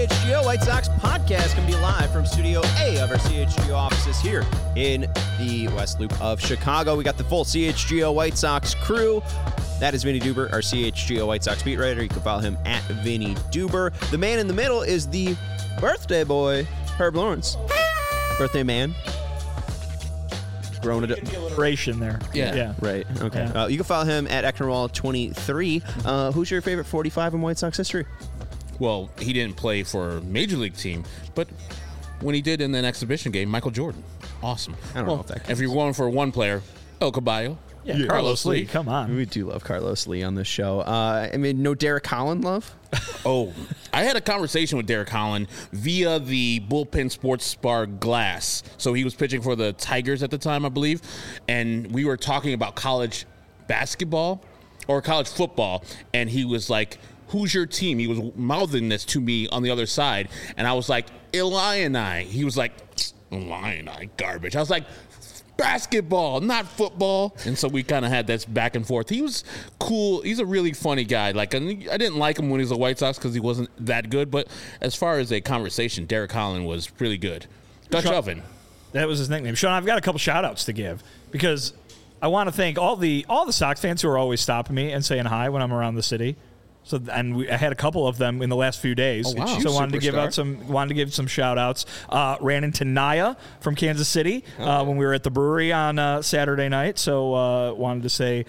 CHGO White Sox podcast coming to you live from Studio A of our CHGO offices here in the West Loop of Chicago. We got the full CHGO White Sox crew. That is Vinny Duber, our CHGO White Sox beat writer. You can follow him at Vinny Duber. The man in the middle is the birthday boy, Herb Lawrence. Birthday man. Grown Inspiration there. Yeah. Right. Okay. Yeah. You can follow him at Ecknerwall23. Who's your favorite 45 in White Sox history? Well, he didn't play for a major league team, but when he did in an exhibition game, Michael Jordan. Awesome. I don't know if that counts. If you're going for one player, El Caballo. Yeah, Carlos Lee. Come on. We do love Carlos Lee on this show. No Derek Holland love? Oh, I had a conversation with Derek Holland via the Bullpen Sports Bar Glass. So he was pitching for the Tigers at the time, I believe. And we were talking about college basketball or college football. And he was like, who's your team? He was mouthing this to me on the other side. And I was like, Illini. He was like, Illini, garbage. I was like, basketball, not football. And so we kind of had this back and forth. He was cool. He's a really funny guy. Like, I didn't like him when he was a White Sox because he wasn't that good. But as far as a conversation, Derek Holland was really good. Dutch Oven. That was his nickname. Sean, I've got a couple shout-outs to give because I want to thank all the Sox fans who are always stopping me and saying hi when I'm around the city. So I had a couple of them in the last few days. Oh, wow. So wanted to give some shout outs. Ran into Naya from Kansas City when we were at the brewery on Saturday night. So wanted to say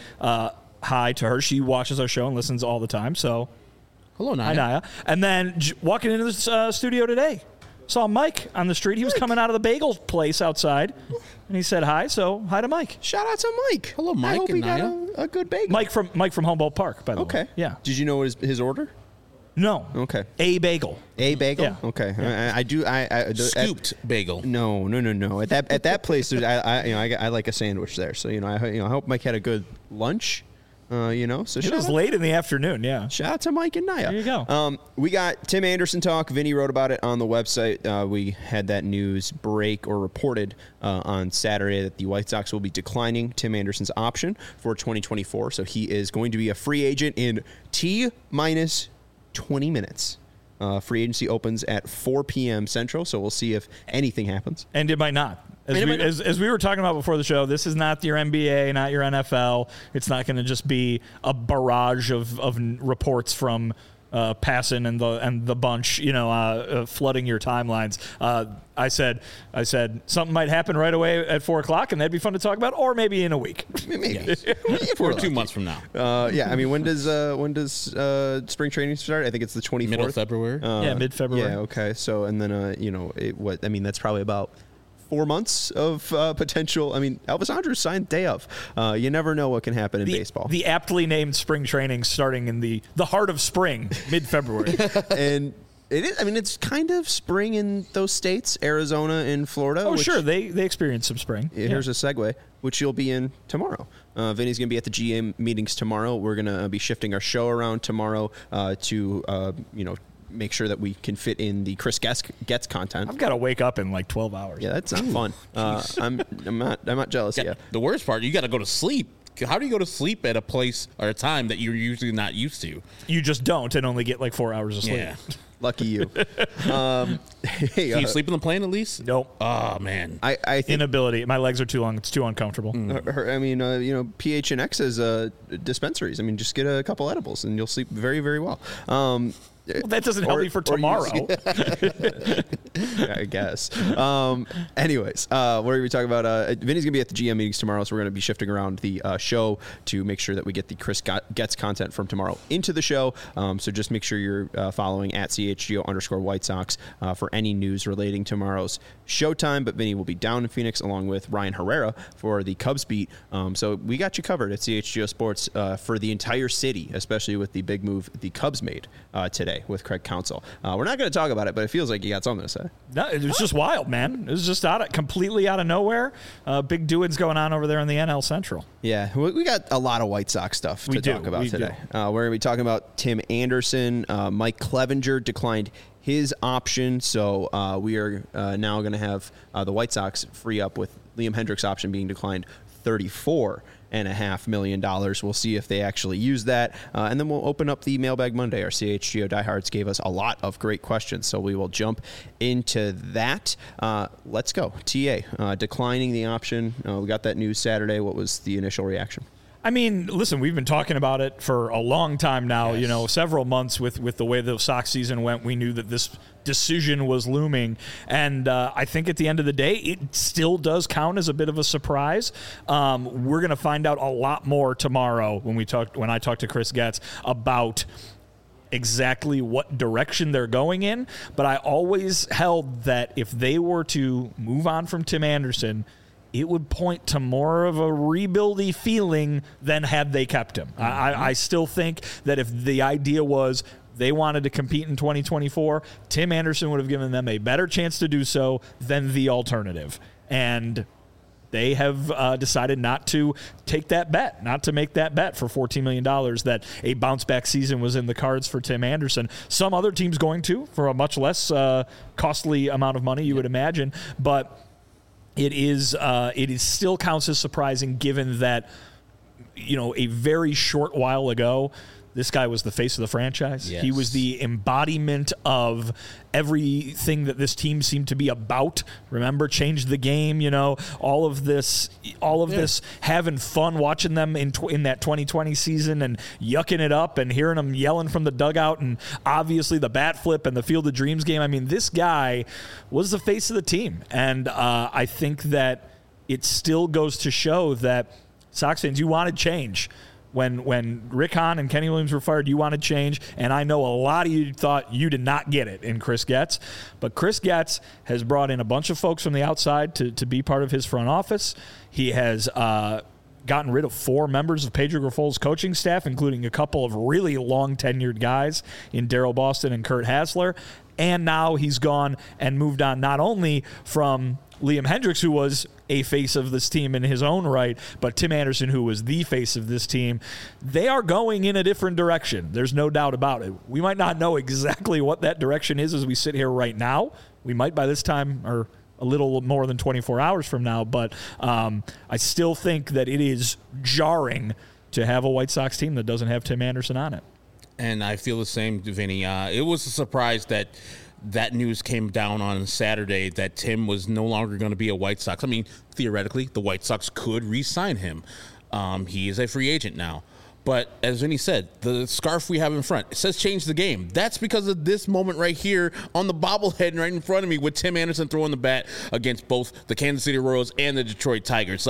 hi to her. She watches our show and listens all the time. So hello, Naya. Hi, Naya. And then walking into the studio today, saw Mike on the street. He was coming out of the bagel place outside, and he said hi. So hi to Mike. Shout out to Mike. Hello, Mike I hope and he got Naya. a good bagel. Mike from Humboldt Park, by the way. Okay. Yeah. Did you know his order? No. Okay. A bagel. A bagel? Yeah. Okay. Yeah. I do. Scooped bagel. No. At that place, I like a sandwich there. So I hope Mike had a good lunch. So It was late in the afternoon, yeah. Shout out to Mike and Naya. There you go. We got Tim Anderson talk. Vinny wrote about it on the website. We had that news break or reported on Saturday that the White Sox will be declining Tim Anderson's option for 2024. So he is going to be a free agent in T-minus 20 minutes. Free agency opens at 4 p.m. Central, so we'll see if anything happens. And it might not. As we were talking about before the show, this is not your NBA, not your NFL. It's not going to just be a barrage of reports from Passan and the bunch, flooding your timelines. I said something might happen right away at 4 o'clock, and that'd be fun to talk about, or maybe in a week. Maybe. If we're 2 months from now. When does spring training start? I think it's the 24th. Middle of February. Mid-February. Yeah. Okay. So and then that's probably about 4 months of potential. I mean, Elvis Andrus signed day of. You never know what can happen in baseball. The aptly named spring training starting in the heart of spring, mid-February. And it is. I mean, it's kind of spring in those states, Arizona and Florida. Oh, sure. They experience some spring. Here's a segue, which you'll be in tomorrow. Vinny's going to be at the GM meetings tomorrow. We're going to be shifting our show around tomorrow to make sure that we can fit in the Chris Getz content. I've got to wake up in like 12 hours. Yeah, that's not fun. I'm not jealous yet. The worst part, you got to go to sleep. How do you go to sleep at a place or a time that you're usually not used to? You just don't and only get like 4 hours of sleep. Yeah. Lucky you. Can you sleep in the plane at least? Nope. Oh, man. I think inability. My legs are too long. It's too uncomfortable. PHNX has dispensaries. I mean, just get a couple edibles and you'll sleep very, very well. Well, that doesn't help me for tomorrow. I guess. Anyways, what are we talking about? Vinny's going to be at the GM meetings tomorrow, so we're going to be shifting around the show to make sure that we get the Chris Getz content from tomorrow into the show. So just make sure you're following at CHGO_White Sox for any news relating to tomorrow's showtime. But Vinny will be down in Phoenix along with Ryan Herrera for the Cubs beat. So we got you covered at CHGO Sports for the entire city, especially with the big move the Cubs made today with Craig Counsell. We're not going to talk about it, but it feels like you got something to say. No, it was just wild, man. It was just completely out of nowhere. Big doings going on over there in the NL Central. Yeah, we got a lot of White Sox stuff to talk about today. We're going to be talking about Tim Anderson. Mike Clevenger declined his option, so we are now going to have the White Sox free up with Liam Hendriks' option being declined 34. $4.5 million. We'll see if they actually use that. And then we'll open up the Mailbag Monday. Our CHGO diehards gave us a lot of great questions, so we will jump into that. Let's go. TA, declining the option. We got that news Saturday. What was the initial reaction? I mean, listen, we've been talking about it for a long time now, several months with the way the Sox season went. We knew that this decision was looming. And I think at the end of the day, it still does count as a bit of a surprise. We're going to find out a lot more tomorrow when I talk to Chris Getz about exactly what direction they're going in. But I always held that if they were to move on from Tim Anderson, it would point to more of a rebuildy feeling than had they kept him. Mm-hmm. I still think that if the idea was they wanted to compete in 2024, Tim Anderson would have given them a better chance to do so than the alternative. And they have decided not to take that bet, not to make that bet for $14 million that a bounce-back season was in the cards for Tim Anderson. Some other teams going to for a much less costly amount of money, you would imagine. But it is still counts as surprising given that, a very short while ago, this guy was the face of the franchise. Yes. He was the embodiment of everything that this team seemed to be about. Remember, changed the game, all of this having fun watching them in that 2020 season and yucking it up and hearing them yelling from the dugout and obviously the bat flip and the Field of Dreams game. I mean, this guy was the face of the team. And I think that it still goes to show that Sox fans, you wanted change. When Rick Hahn and Kenny Williams were fired, you wanted change, and I know a lot of you thought you did not get it in Chris Getz. But Chris Getz has brought in a bunch of folks from the outside to be part of his front office. He has gotten rid of 4 members of Pedro Grifol's coaching staff, including a couple of really long-tenured guys in Daryl Boston and Kurt Hassler. And now he's gone and moved on not only from Liam Hendriks, who was a face of this team in his own right, but Tim Anderson, who was the face of this team. They are going in a different direction. There's no doubt about it. We might not know exactly what that direction is as we sit here right now. We might by this time, or a little more than 24 hours from now, but I still think that it is jarring to have a White Sox team that doesn't have Tim Anderson on it. And I feel the same, Vinny. It was a surprise that news came down on Saturday that Tim was no longer going to be a White Sox. I mean, theoretically, the White Sox could re-sign him. He is a free agent now. But as Vinny said, the scarf we have in front, it says change the game. That's because of this moment right here on the bobblehead right in front of me with Tim Anderson throwing the bat against both the Kansas City Royals and the Detroit Tigers.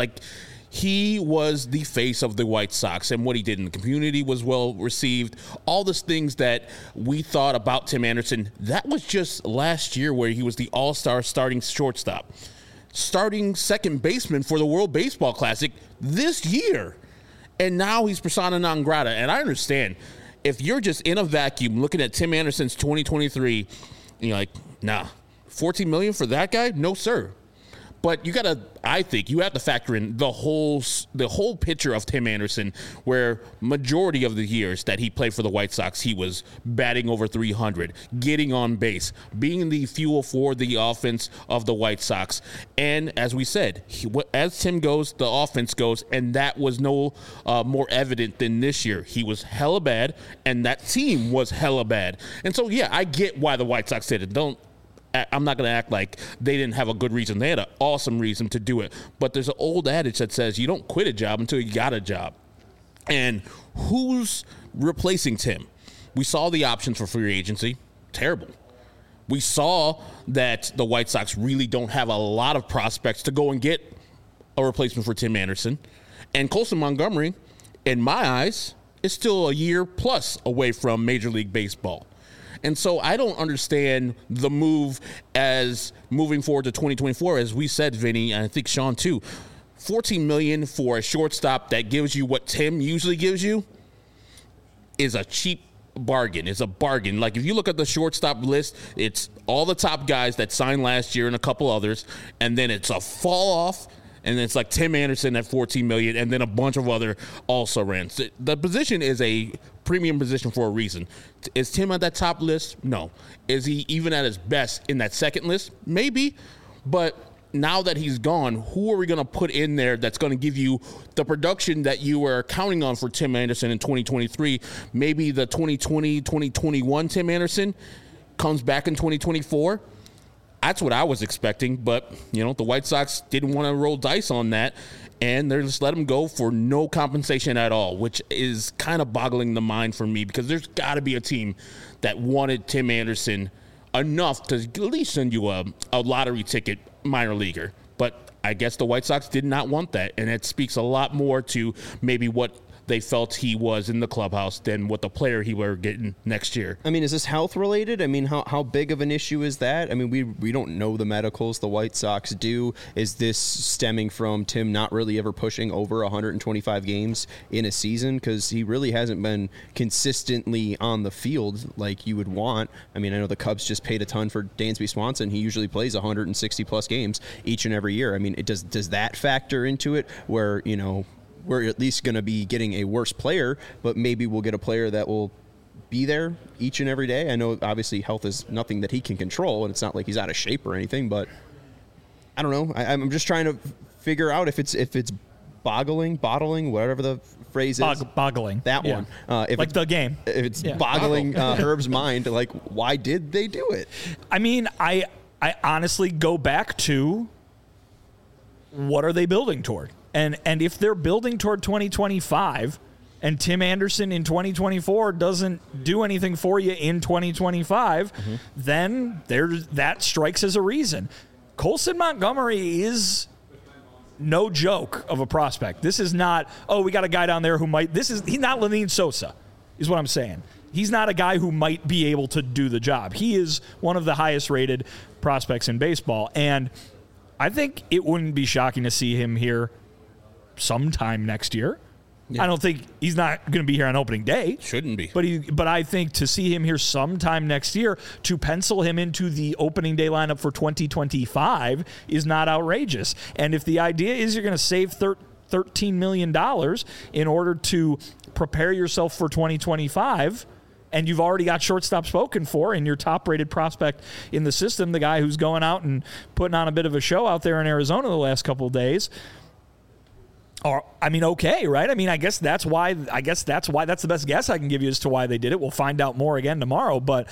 He was the face of the White Sox, and what he did in the community was well received. All those things that we thought about Tim Anderson, that was just last year where he was the all-star starting shortstop. Starting second baseman for the World Baseball Classic this year. And now he's persona non grata. And I understand, if you're just in a vacuum looking at Tim Anderson's 2023, and you're like, nah, $14 million for that guy? No, sir. But I think you have to factor in the whole picture of Tim Anderson, where majority of the years that he played for the White Sox, he was batting over 300, getting on base, being the fuel for the offense of the White Sox. And as we said, as Tim goes, the offense goes, and that was no more evident than this year. He was hella bad, and that team was hella bad. And so, yeah, I get why the White Sox did it. I'm not going to act like they didn't have a good reason. They had an awesome reason to do it. But there's an old adage that says you don't quit a job until you got a job. And who's replacing Tim? We saw the options for free agency. Terrible. We saw that the White Sox really don't have a lot of prospects to go and get a replacement for Tim Anderson. And Colson Montgomery, in my eyes, is still a year plus away from Major League Baseball. And so I don't understand the move as moving forward to 2024, as we said, Vinny, and I think Sean too. $14 million for a shortstop that gives you what Tim usually gives you is a cheap bargain. It's a bargain. If you look at the shortstop list, it's all the top guys that signed last year and a couple others, and then it's a fall off. And it's like Tim Anderson at $14 million, and then a bunch of other also-rans. The position is a premium position for a reason. Is Tim on that top list? No. Is he even at his best in that second list? Maybe. But now that he's gone, who are we going to put in there that's going to give you the production that you were counting on for Tim Anderson in 2023? Maybe the 2020, 2021 Tim Anderson comes back in 2024. That's what I was expecting, but, the White Sox didn't want to roll dice on that, and they just let him go for no compensation at all, which is kind of boggling the mind for me, because there's got to be a team that wanted Tim Anderson enough to at least send you a lottery ticket minor leaguer. But I guess the White Sox did not want that, and it speaks a lot more to maybe what they felt he was in the clubhouse than what the player he were getting next year. I mean, is this health related? I mean, how big of an issue is that? I mean, we don't know the medicals. The White Sox do. Is this stemming from Tim not really ever pushing over 125 games in a season? Because he really hasn't been consistently on the field like you would want. I mean, I know the Cubs just paid a ton for Dansby Swanson. He usually plays 160 plus games each and every year. I mean, does that factor into it where, we're at least going to be getting a worse player, but maybe we'll get a player that will be there each and every day? I know obviously health is nothing that he can control, and it's not like he's out of shape or anything, but I don't know. I'm just trying to figure out if it's bottling, whatever the phrase is. Boggling. That one. If like the game. If it's boggling Herb's mind, like, why did they do it? I mean, I honestly go back to what are they building toward? And if they're building toward 2025 and Tim Anderson in 2024 doesn't do anything for you in 2025, then that strikes as a reason. Colson Montgomery is no joke of a prospect. This is not, we got a guy down there who might, he's not Lenyn Sosa, is what I'm saying. He's not a guy who might be able to do the job. He is one of the highest rated prospects in baseball. And I think it wouldn't be shocking to see him here sometime next year. I don't think he's not going to be here on opening day. Shouldn't be. But I think to see him here sometime next year, to pencil him into the opening day lineup for 2025 is not outrageous. And if the idea is you're going to save $13 million in order to prepare yourself for 2025, and you've already got shortstop spoken for and your top-rated prospect in the system, the guy who's going out and putting on a bit of a show out there in Arizona the last couple of days, okay, right? I mean, I guess that's why that's the best guess I can give you as to why they did it. We'll find out more again tomorrow. But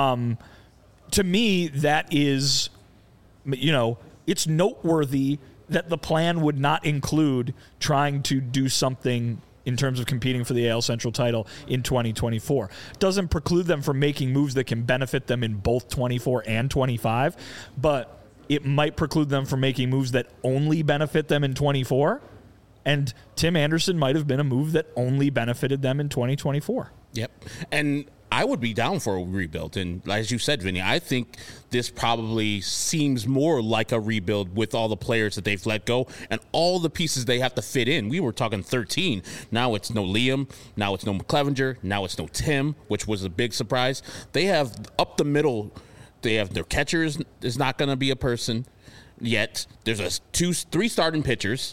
to me, that is, it's noteworthy that the plan would not include trying to do something in terms of competing for the AL Central title in 2024. Doesn't preclude them from making moves that can benefit them in both 24 and 25, but it might preclude them from making moves that only benefit them in 24. And Tim Anderson might have been a move that only benefited them in 2024. Yep. And I would be down for a rebuild. And as you said, Vinny, I think this probably seems more like a rebuild with all the players that they've let go and all the pieces they have to fit in. We were talking 13. Now it's no Liam. Now it's no McClevenger. Now it's no Tim, which was a big surprise. They have up the middle. They have their catcher is not going to be a person yet. There's three starting pitchers.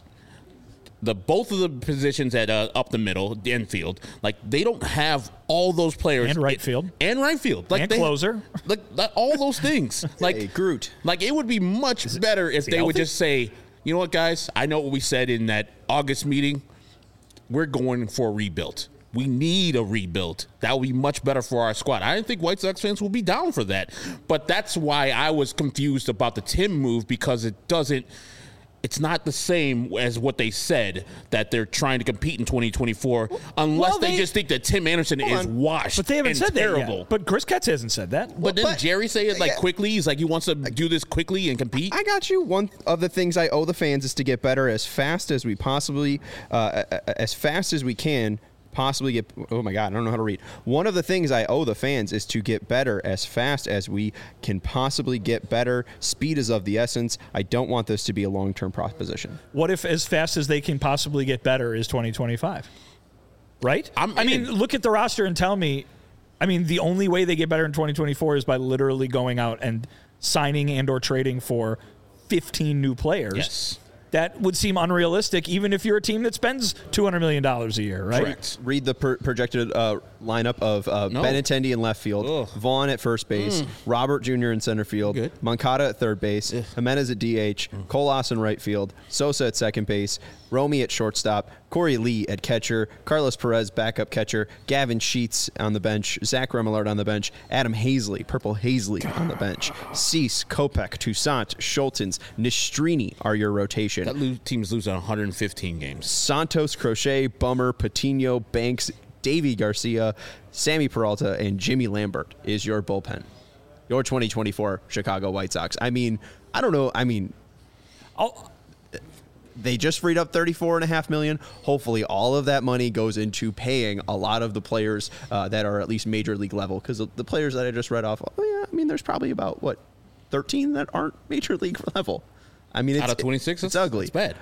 Both of the positions at up the middle, the infield, like they don't have all those players. And right field. Like and closer. Like all those things. Like hey, Groot. Like it would be much better if they would just say, you know what, guys? I know what we said in that August meeting. We're going for a rebuild. We need a rebuild. That would be much better for our squad. I didn't think White Sox fans will be down for that. But that's why I was confused about the Tim move, because it's not the same as what they said, that they're trying to compete in 2024, unless they just think that Tim Anderson is washed. But they haven't said terrible. That yet. But Chris Getz hasn't said that. But didn't Jerry say it quickly? He's like, he wants to do this quickly and compete? I got you. One of the things I owe the fans is to get better as fast as we possibly, as fast as we can. Possibly get, oh my God, I don't know how to read. One of the things I owe the fans is to get better as fast as we can possibly get better. Speed is of the essence. I don't want this to be a long-term proposition. What if as fast as they can possibly get better is 2025? Right? I mean, look at the roster and tell me, the only way they get better in 2024 is by literally going out and signing and or trading for 15 new players. Yes. that would seem unrealistic, even if you're a team that spends $200 million a year, right? Correct. Read the projected lineup of Benintendi in left field, Vaughn at first base, Robert Jr. in center field, Moncada at third base, Jimenez at DH, Colas in right field, Sosa at second base, Romy at shortstop, Corey Lee at catcher, Carlos Perez backup catcher, Gavin Sheets on the bench, Zach Remillard on the bench, Adam Hazley, Purple Hazley on the bench, Cease, Kopech, Toussaint, Schultens, Nistrini are your rotation. That team's losing 115 games. Santos, Crochet, Bummer, Patino, Banks, Davy Garcia, Sammy Peralta, and Jimmy Lambert is your bullpen. Your 2024 Chicago White Sox. I mean, I don't know. I mean, they just freed up $34.5 million. Hopefully, all of that money goes into paying a lot of the players that are at least major league level. Because the players that I just read off, there's probably about 13 that aren't major league level. I mean, out of 26, it's ugly. It's bad.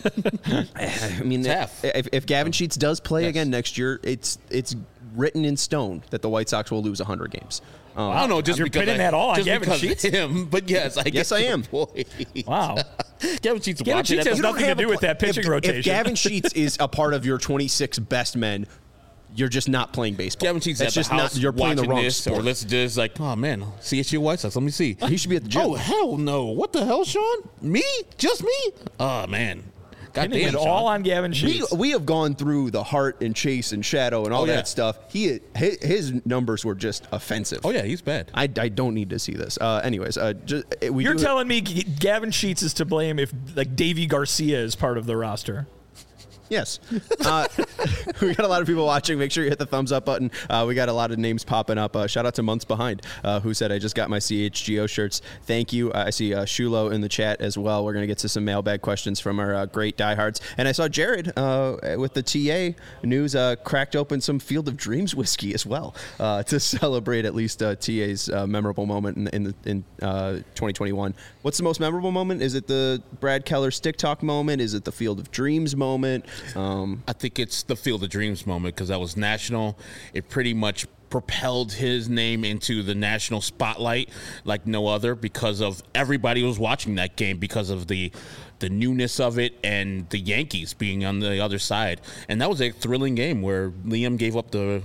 I mean, if Gavin Sheets does play again next year, it's written in stone that the White Sox will lose 100 games. I don't know, just you're because pitting that all on just Gavin because Sheets? him, but yes, I am. Wow. Gavin Sheets has nothing to do with that pitching rotation. If Gavin Sheets is a part of your 26 best men, you're just not playing baseball. Gavin Sheets That's at the house you're playing the wrong this, sport. or let's just oh man, CSU White Sox. Let me see. He should be at the gym. Oh hell no! What the hell, Sean? Me? Just me? Oh man. God damn, it all on Gavin Sheets. We have gone through the Hart and Chase and Shadow and all that stuff. His numbers were just offensive. Oh yeah, he's bad. I don't need to see this. Anyways, you're telling me Gavin Sheets is to blame if Davy Garcia is part of the roster? Yes. We got a lot of people watching. Make sure you hit the thumbs up button. We got a lot of names popping up. Shout out to Months Behind, who said, I just got my CHGO shirts. Thank you. I see Shulo in the chat as well. We're going to get to some mailbag questions from our great diehards. And I saw Jared with the TA news cracked open some Field of Dreams whiskey as well to celebrate at least TA's memorable moment in 2021. What's the most memorable moment? Is it the Brad Keller stick talk moment? Is it the Field of Dreams moment? I think it's the Field of Dreams moment because that was national. It pretty much propelled his name into the national spotlight like no other because of everybody was watching that game because of the newness of it and the Yankees being on the other side. And that was a thrilling game where Liam gave up the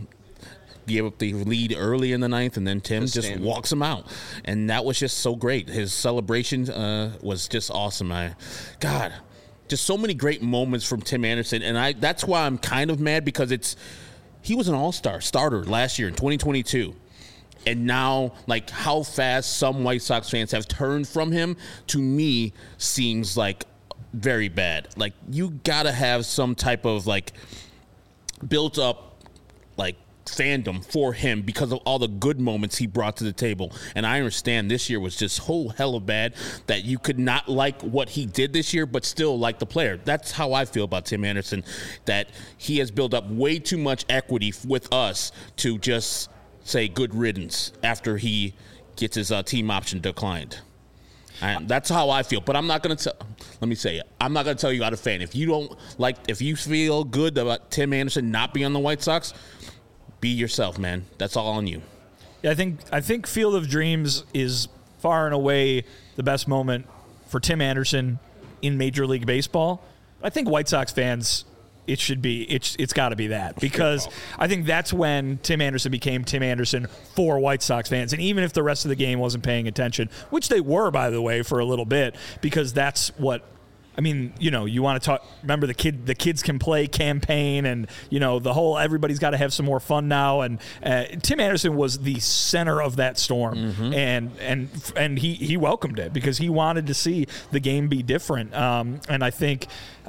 lead early in the ninth, and then Tim just walks him out. And that was just so great. His celebration was just awesome. Just so many great moments from Tim Anderson, and that's why I'm kind of mad because he was an all-star starter last year in 2022, and now how fast some White Sox fans have turned from him to me seems very bad. You gotta have some type of built up fandom for him because of all the good moments he brought to the table. And I understand this year was just whole hell of bad that you could not like what he did this year but still like the player. That's how I feel about Tim Anderson, that he has built up way too much equity with us to just say good riddance after he gets his team option declined. And that's how I feel, but I'm not going to let me say it. I'm not going to tell you how to fan. If you feel good about Tim Anderson not being on the White Sox, be yourself, man. That's all on you. Yeah, I think Field of Dreams is far and away the best moment for Tim Anderson in Major League Baseball. I think White Sox fans, it's got to be that because I think that's when Tim Anderson became Tim Anderson for White Sox fans. And even if the rest of the game wasn't paying attention, which they were, by the way, for a little bit, because that's what. I mean, you want to talk. Remember the kids can play campaign, and the whole everybody's got to have some more fun now. And Tim Anderson was the center of that storm, and he welcomed it because he wanted to see the game be different. And I think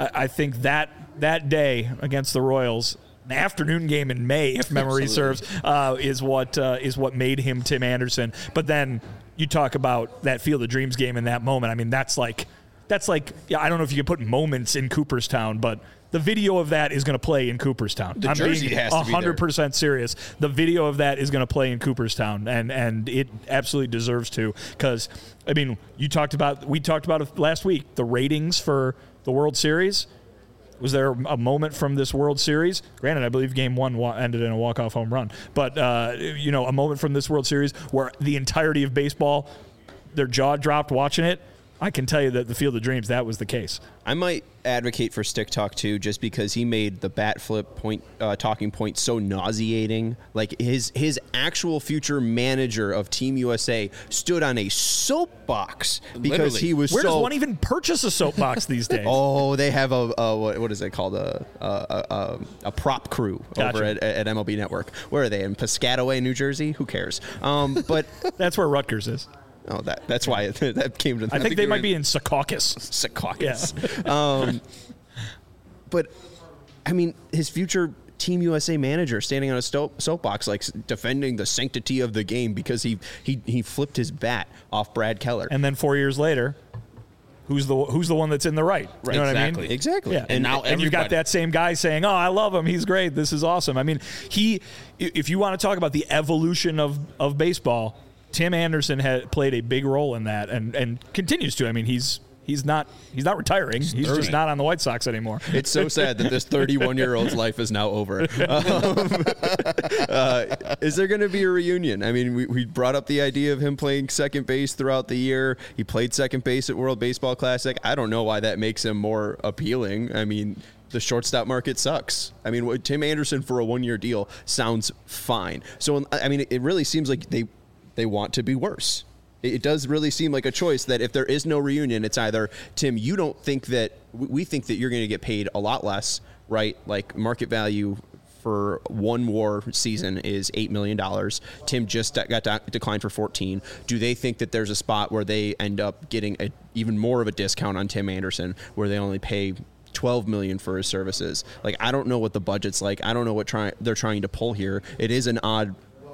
that day against the Royals, an afternoon game in May, if memory serves, is what made him Tim Anderson. But then you talk about that Field of Dreams game in that moment. I mean, that's like, I don't know if you can put moments in Cooperstown, but the video of that is going to play in Cooperstown. The jersey has to be there. 100% serious. The video of that is going to play in Cooperstown, and it absolutely deserves to. Because I mean, we talked about it last week. The ratings for the World Series. Was there a moment from this World Series? Granted, I believe Game 1 ended in a walk-off home run, but a moment from this World Series where the entirety of baseball, their jaw dropped watching it. I can tell you that the Field of Dreams, that was the case. I might advocate for Stick Talk too, just because he made the bat flip talking point so nauseating. Like his actual future manager of Team USA stood on a soapbox because Literally. he was Where does one even purchase a soapbox these days? Oh, they have a what is it called, a prop crew over at MLB Network. Where are they, in Piscataway, New Jersey? Who cares? But that's where Rutgers is. Oh, that's why that came to. I think they might be in Secaucus. Secaucus. Yeah. But I mean, his future Team USA manager standing on a soapbox, like defending the sanctity of the game because he flipped his bat off Brad Keller. And then 4 years later, who's the one that's in the right? Right, You know exactly. what I mean? Exactly. Yeah. And now you've got that same guy saying, "Oh, I love him. He's great. This is awesome." I mean, if you want to talk about the evolution of baseball, Tim Anderson had played a big role in that and continues to. I mean, he's not retiring. He's just not on the White Sox anymore. It's so sad that this 31-year-old's life is now over. Is there going to be a reunion? I mean, we brought up the idea of him playing second base throughout the year. He played second base at World Baseball Classic. I don't know why that makes him more appealing. I mean, the shortstop market sucks. I mean, Tim Anderson for a one-year deal sounds fine. So, I mean, it really seems like they want to be worse. It does really seem like a choice that if there is no reunion, it's either, Tim, you don't think that we think that you're going to get paid a lot less, right? Like market value for one WAR season is $8 million. Tim just got declined for 14. Do they think that there's a spot where they end up getting even more of a discount on Tim Anderson, where they only pay $12 million for his services? Like, I don't know what the budget's like. I don't know what they're trying to pull here. It is an odd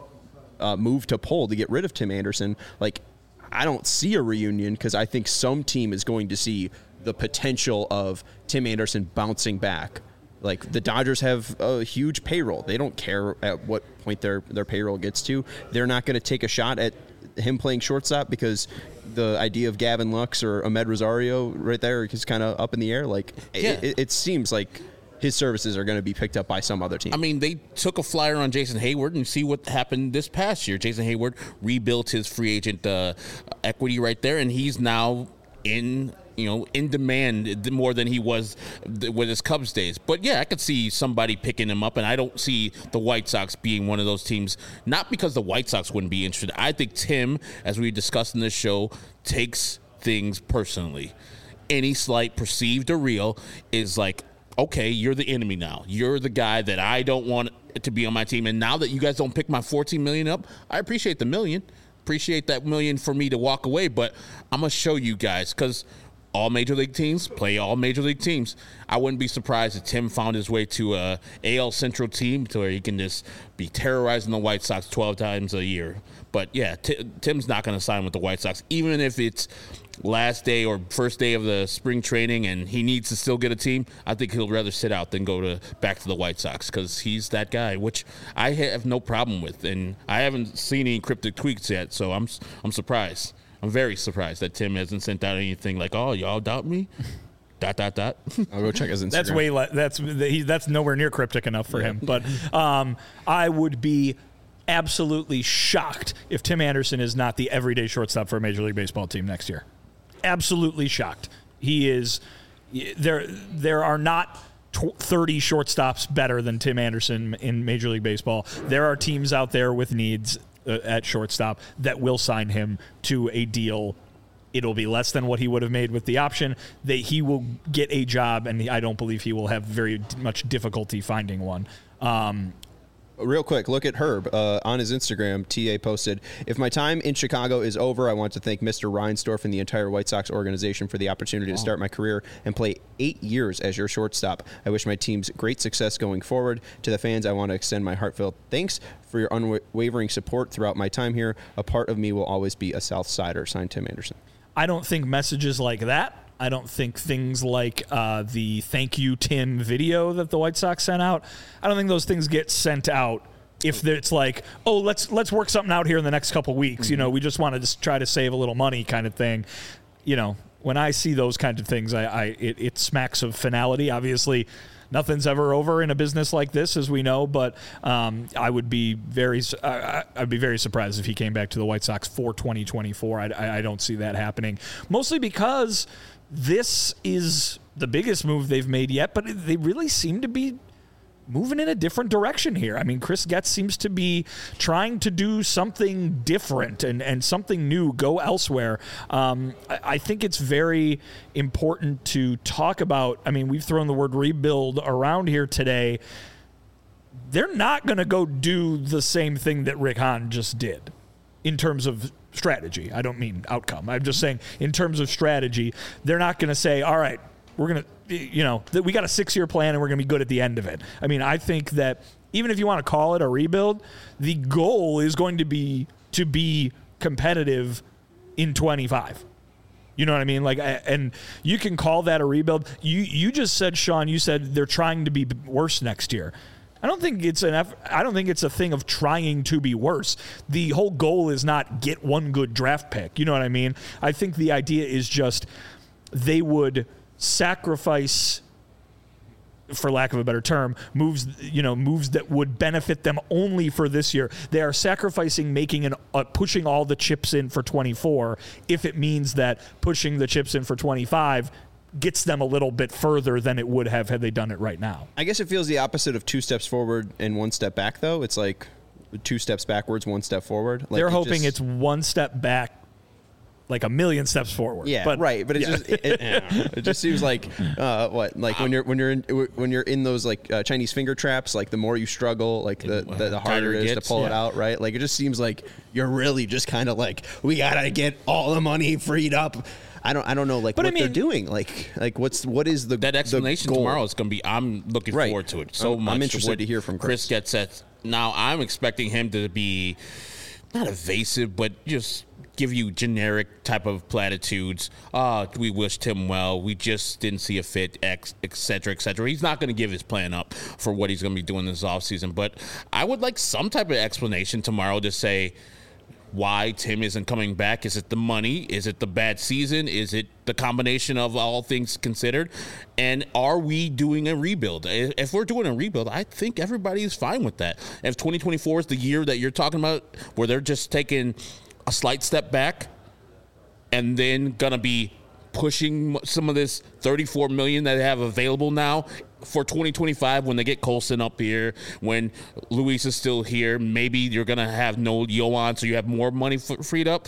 move to pull to get rid of Tim Anderson. Like, I don't see a reunion because I think some team is going to see the potential of Tim Anderson bouncing back. Like, the Dodgers have a huge payroll. They don't care at what point their payroll gets to. They're not going to take a shot at him playing shortstop because the idea of Gavin Lux or Ahmed Rosario right there is kind of up in the air. Like, it seems like his services are going to be picked up by some other team. I mean, they took a flyer on Jason Hayward, and see what happened this past year. Jason Hayward rebuilt his free agent equity right there, and he's now in demand more than he was with his Cubs days. But yeah, I could see somebody picking him up, and I don't see the White Sox being one of those teams. Not because the White Sox wouldn't be interested. I think Tim, as we discussed in this show, takes things personally. Any slight, perceived or real, is like, okay, you're the enemy now. You're the guy that I don't want to be on my team. And now that you guys don't pick my $14 million up, I appreciate the $1 million. Appreciate that $1 million for me to walk away. But I'm going to show you guys, because all major league teams play all major league teams. I wouldn't be surprised if Tim found his way to a AL Central team to where he can just be terrorizing the White Sox 12 times a year. But yeah, Tim's not going to sign with the White Sox, even if it's last day or first day of the spring training and he needs to still get a team. I think he'll rather sit out than go back to the White Sox, because he's that guy, which I have no problem with. And I haven't seen any cryptic tweets yet, so I'm surprised. I'm very surprised that Tim hasn't sent out anything like, "Oh, y'all doubt me?" ... I'll go check his Instagram. That's nowhere near cryptic enough for him. But I would be absolutely shocked if Tim Anderson is not the everyday shortstop for a Major League Baseball team next year. Absolutely shocked. He is. There are not 30 shortstops better than Tim Anderson in Major League Baseball. There are teams out there with needs at shortstop that will sign him to a deal. It'll be less than what he would have made with the option. That he will get a job, and I don't believe he will have very much difficulty finding one. Real quick, look at Herb on his Instagram. TA posted, "If my time in Chicago is over, I want to thank Mr. Reinsdorf and the entire White Sox organization for the opportunity to start my career and play 8 years as your shortstop. I wish my team's great success going forward. To the fans, I want to extend my heartfelt thanks for your unwavering support throughout my time here. A part of me will always be a South Sider." Signed, Tim Anderson. I don't think messages like that, I don't think things like the "Thank You, Tim" video that the White Sox sent out, I don't think those things get sent out if it's like, "Oh, let's work something out here in the next couple weeks. Mm-hmm. We just want to just try to save a little money," kind of thing. When I see those kinds of things, it smacks of finality. Obviously, nothing's ever over in a business like this, as we know. But I'd be very surprised if he came back to the White Sox for 2024. I don't see that happening, mostly because this is the biggest move they've made yet, but they really seem to be moving in a different direction here. I mean, Chris Getz seems to be trying to do something different and something new, go elsewhere. I think it's very important to talk about. I mean, we've thrown the word rebuild around here today. They're not going to go do the same thing that Rick Hahn just did in terms of strategy. I don't mean outcome. I'm just saying in terms of strategy, they're not going to say, all right, we're going to, we got a 6-year plan and we're going to be good at the end of it. I mean, I think that even if you want to call it a rebuild, the goal is going to be competitive in 25. You know what I mean? Like, and you can call that a rebuild. You just said, Sean, you said they're trying to be worse next year. I don't think it's a thing of trying to be worse. The whole goal is not get one good draft pick. You know what I mean? I think the idea is just they would sacrifice, for lack of a better term, moves that would benefit them only for this year. They are sacrificing pushing all the chips in for 24 if it means that pushing the chips in for 25 gets them a little bit further than it would have had they done it right now. I guess it feels the opposite of 2 steps forward and 1 step back, though. It's like 2 steps backwards, 1 step forward. Like they're hoping it's 1 step back, like a million steps forward. Yeah, but, right. But it just seems like when you're in those like Chinese finger traps, like the more you struggle, like the harder it is to pull it out. Right. Like it just seems like you're really just kind of like, we gotta get all the money freed up. I don't know like they're doing. Like what is that explanation tomorrow is going to be. I'm looking forward to it so much. I'm interested to hear from Chris. Gets at. Now I'm expecting him to be not evasive, but just give you generic type of platitudes. We wish Tim well. We just didn't see a fit, et cetera, et cetera. He's not going to give his plan up for what he's going to be doing this offseason. But I would like some type of explanation tomorrow to say why Tim isn't coming back. Is it the money? Is it the bad season? Is it the combination of all things considered? And are we doing a rebuild? If we're doing a rebuild, I think everybody is fine with that. If 2024 is the year that you're talking about where they're just taking a slight step back and then going to be pushing some of this $34 million that they have available now for 2025 when they get Colson up here, when Luis is still here, maybe you're going to have no Yohan, so you have more money freed up.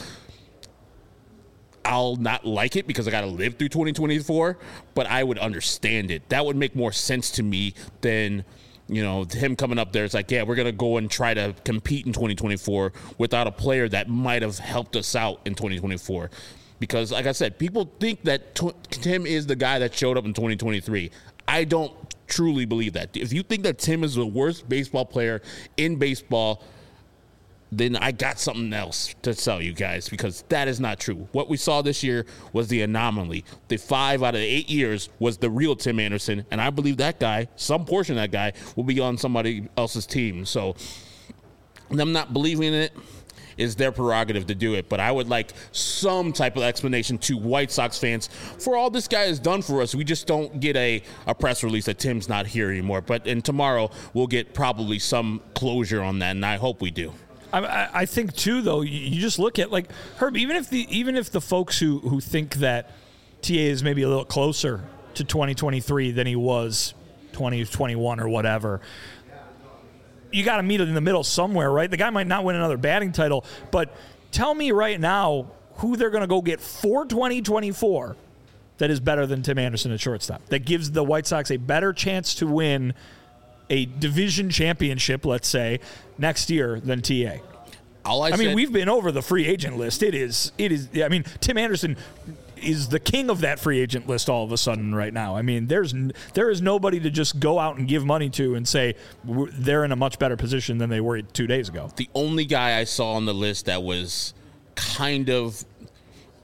I'll not like it because I got to live through 2024, but I would understand it. That would make more sense to me than him coming up there. It's like, yeah, we're going to go and try to compete in 2024 without a player that might have helped us out in 2024. Because, like I said, people think that Tim is the guy that showed up in 2023. I don't truly believe that. If you think that Tim is the worst baseball player in baseball, then I got something else to tell you guys, because that is not true. What we saw this year was the anomaly. The 5 out of 8 years was the real Tim Anderson, and I believe that guy, some portion of that guy, will be on somebody else's team. So them not believing in it is their prerogative to do it. But I would like some type of explanation to White Sox fans for all this guy has done for us. We just don't get a press release that Tim's not here anymore. But tomorrow we'll get probably some closure on that, and I hope we do. I think too, though, you just look at, like, Herb, even if the folks who think that TA is maybe a little closer to 2023 than he was 2021 or whatever, you got to meet it in the middle somewhere, right? The guy might not win another batting title, but tell me right now who they're going to go get for 2024 that is better than Tim Anderson at shortstop, that gives the White Sox a better chance to win a division championship, let's say, next year than TA. I mean, we've been over the free agent list. It is. I mean, Tim Anderson is the king of that free agent list all of a sudden right now. I mean, there is nobody to just go out and give money to and say they're in a much better position than they were 2 days ago. The only guy I saw on the list that was kind of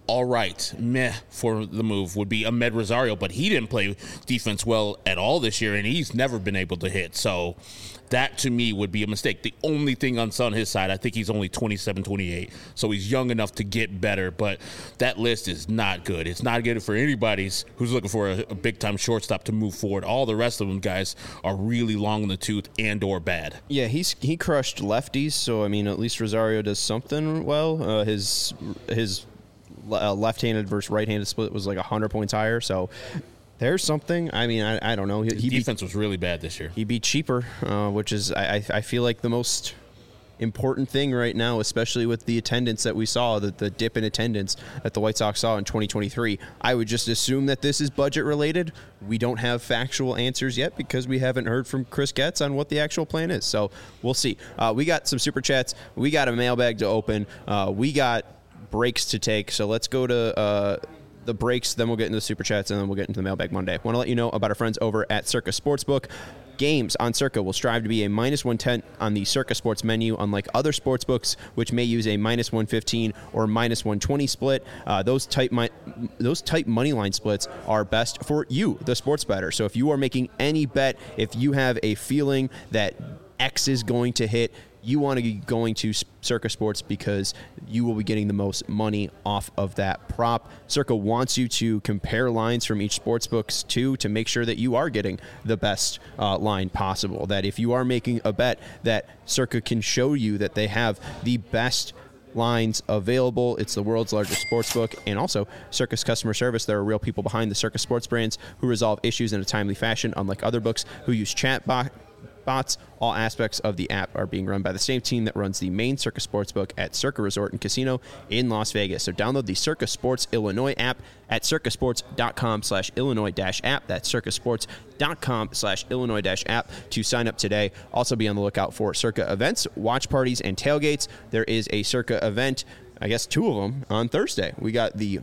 all right, meh for the move would be Ahmed Rosario, but he didn't play defense well at all this year, and he's never been able to hit. So that, to me, would be a mistake. The only thing on his side, I think he's only 27, 28, so he's young enough to get better, but that list is not good. It's not good for anybody who's looking for a big-time shortstop to move forward. All the rest of them guys are really long in the tooth and or bad. Yeah, he crushed lefties, so, I mean, at least Rosario does something well. His left-handed versus right-handed split was like 100 points higher, so there's something. I mean, I don't know. Defense was really bad this year. He beat cheaper, which is, I feel like, the most important thing right now, especially with the attendance that we saw, the dip in attendance that the White Sox saw in 2023. I would just assume that this is budget related. We don't have factual answers yet because we haven't heard from Chris Getz on what the actual plan is. So we'll see. We got some super chats. We got a mailbag to open. We got breaks to take. So let's go to the breaks, then we'll get into the super chats, and then we'll get into the mailbag Monday. I want to let you know about our friends over at Circa Sportsbook. Games on Circa will strive to be a -110 on the Circa Sports menu, unlike other sportsbooks, which may use a -115 or -120 split. Those tight money line splits are best for you, the sports bettor. So if you are making any bet, if you have a feeling that X is going to hit, you want to be going to Circa Sports because you will be getting the most money off of that prop. Circa wants you to compare lines from each sportsbooks to make sure that you are getting the best line possible. That if you are making a bet, that Circa can show you that they have the best lines available. It's the world's largest sportsbook, and also Circa's customer service. There are real people behind the Circa Sports brands who resolve issues in a timely fashion, unlike other books who use bots. All aspects of the app are being run by the same team that runs the main Circa Sportsbook at Circa Resort and Casino in Las Vegas. So download the Circa Sports Illinois app at circasports.com/Illinois-app. That's circasports.com/Illinois-app to sign up today. Also be on the lookout for Circa events, watch parties, and tailgates. There is a Circa event, I guess 2 of them, on Thursday. We got the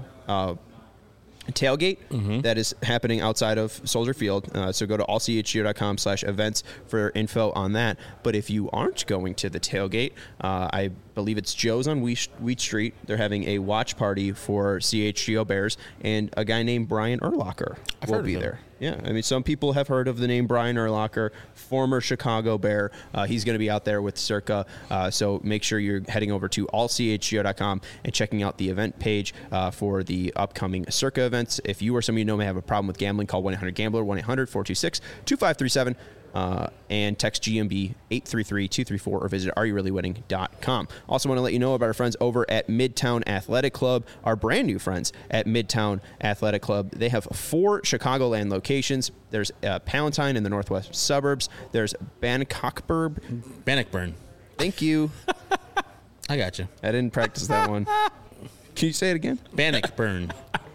tailgate that is happening outside of Soldier Field. So go to allchgo.com/events for info on that. But if you aren't going to the tailgate, I believe it's Joe's on Wheat Street. They're having a watch party for CHGO Bears, and a guy named Brian Urlacher will be there. Yeah, I mean, some people have heard of the name Brian Urlacher, former Chicago Bear. He's going to be out there with Circa, so make sure you're heading over to allchgo.com and checking out the event page for the upcoming Circa events. If you or somebody you know may have a problem with gambling, call 1-800-GAMBLER, 1-800-426-2537. And text GMB 833-234 or visit areyourreallywinning.com. Also want to let you know about our friends over at Midtown Athletic Club, our brand new friends at Midtown Athletic Club. They have 4 Chicagoland locations. There's Palatine in the northwest suburbs. There's Bannockburn. Thank you. I got you. I didn't practice that one. Can you say it again? Bannockburn.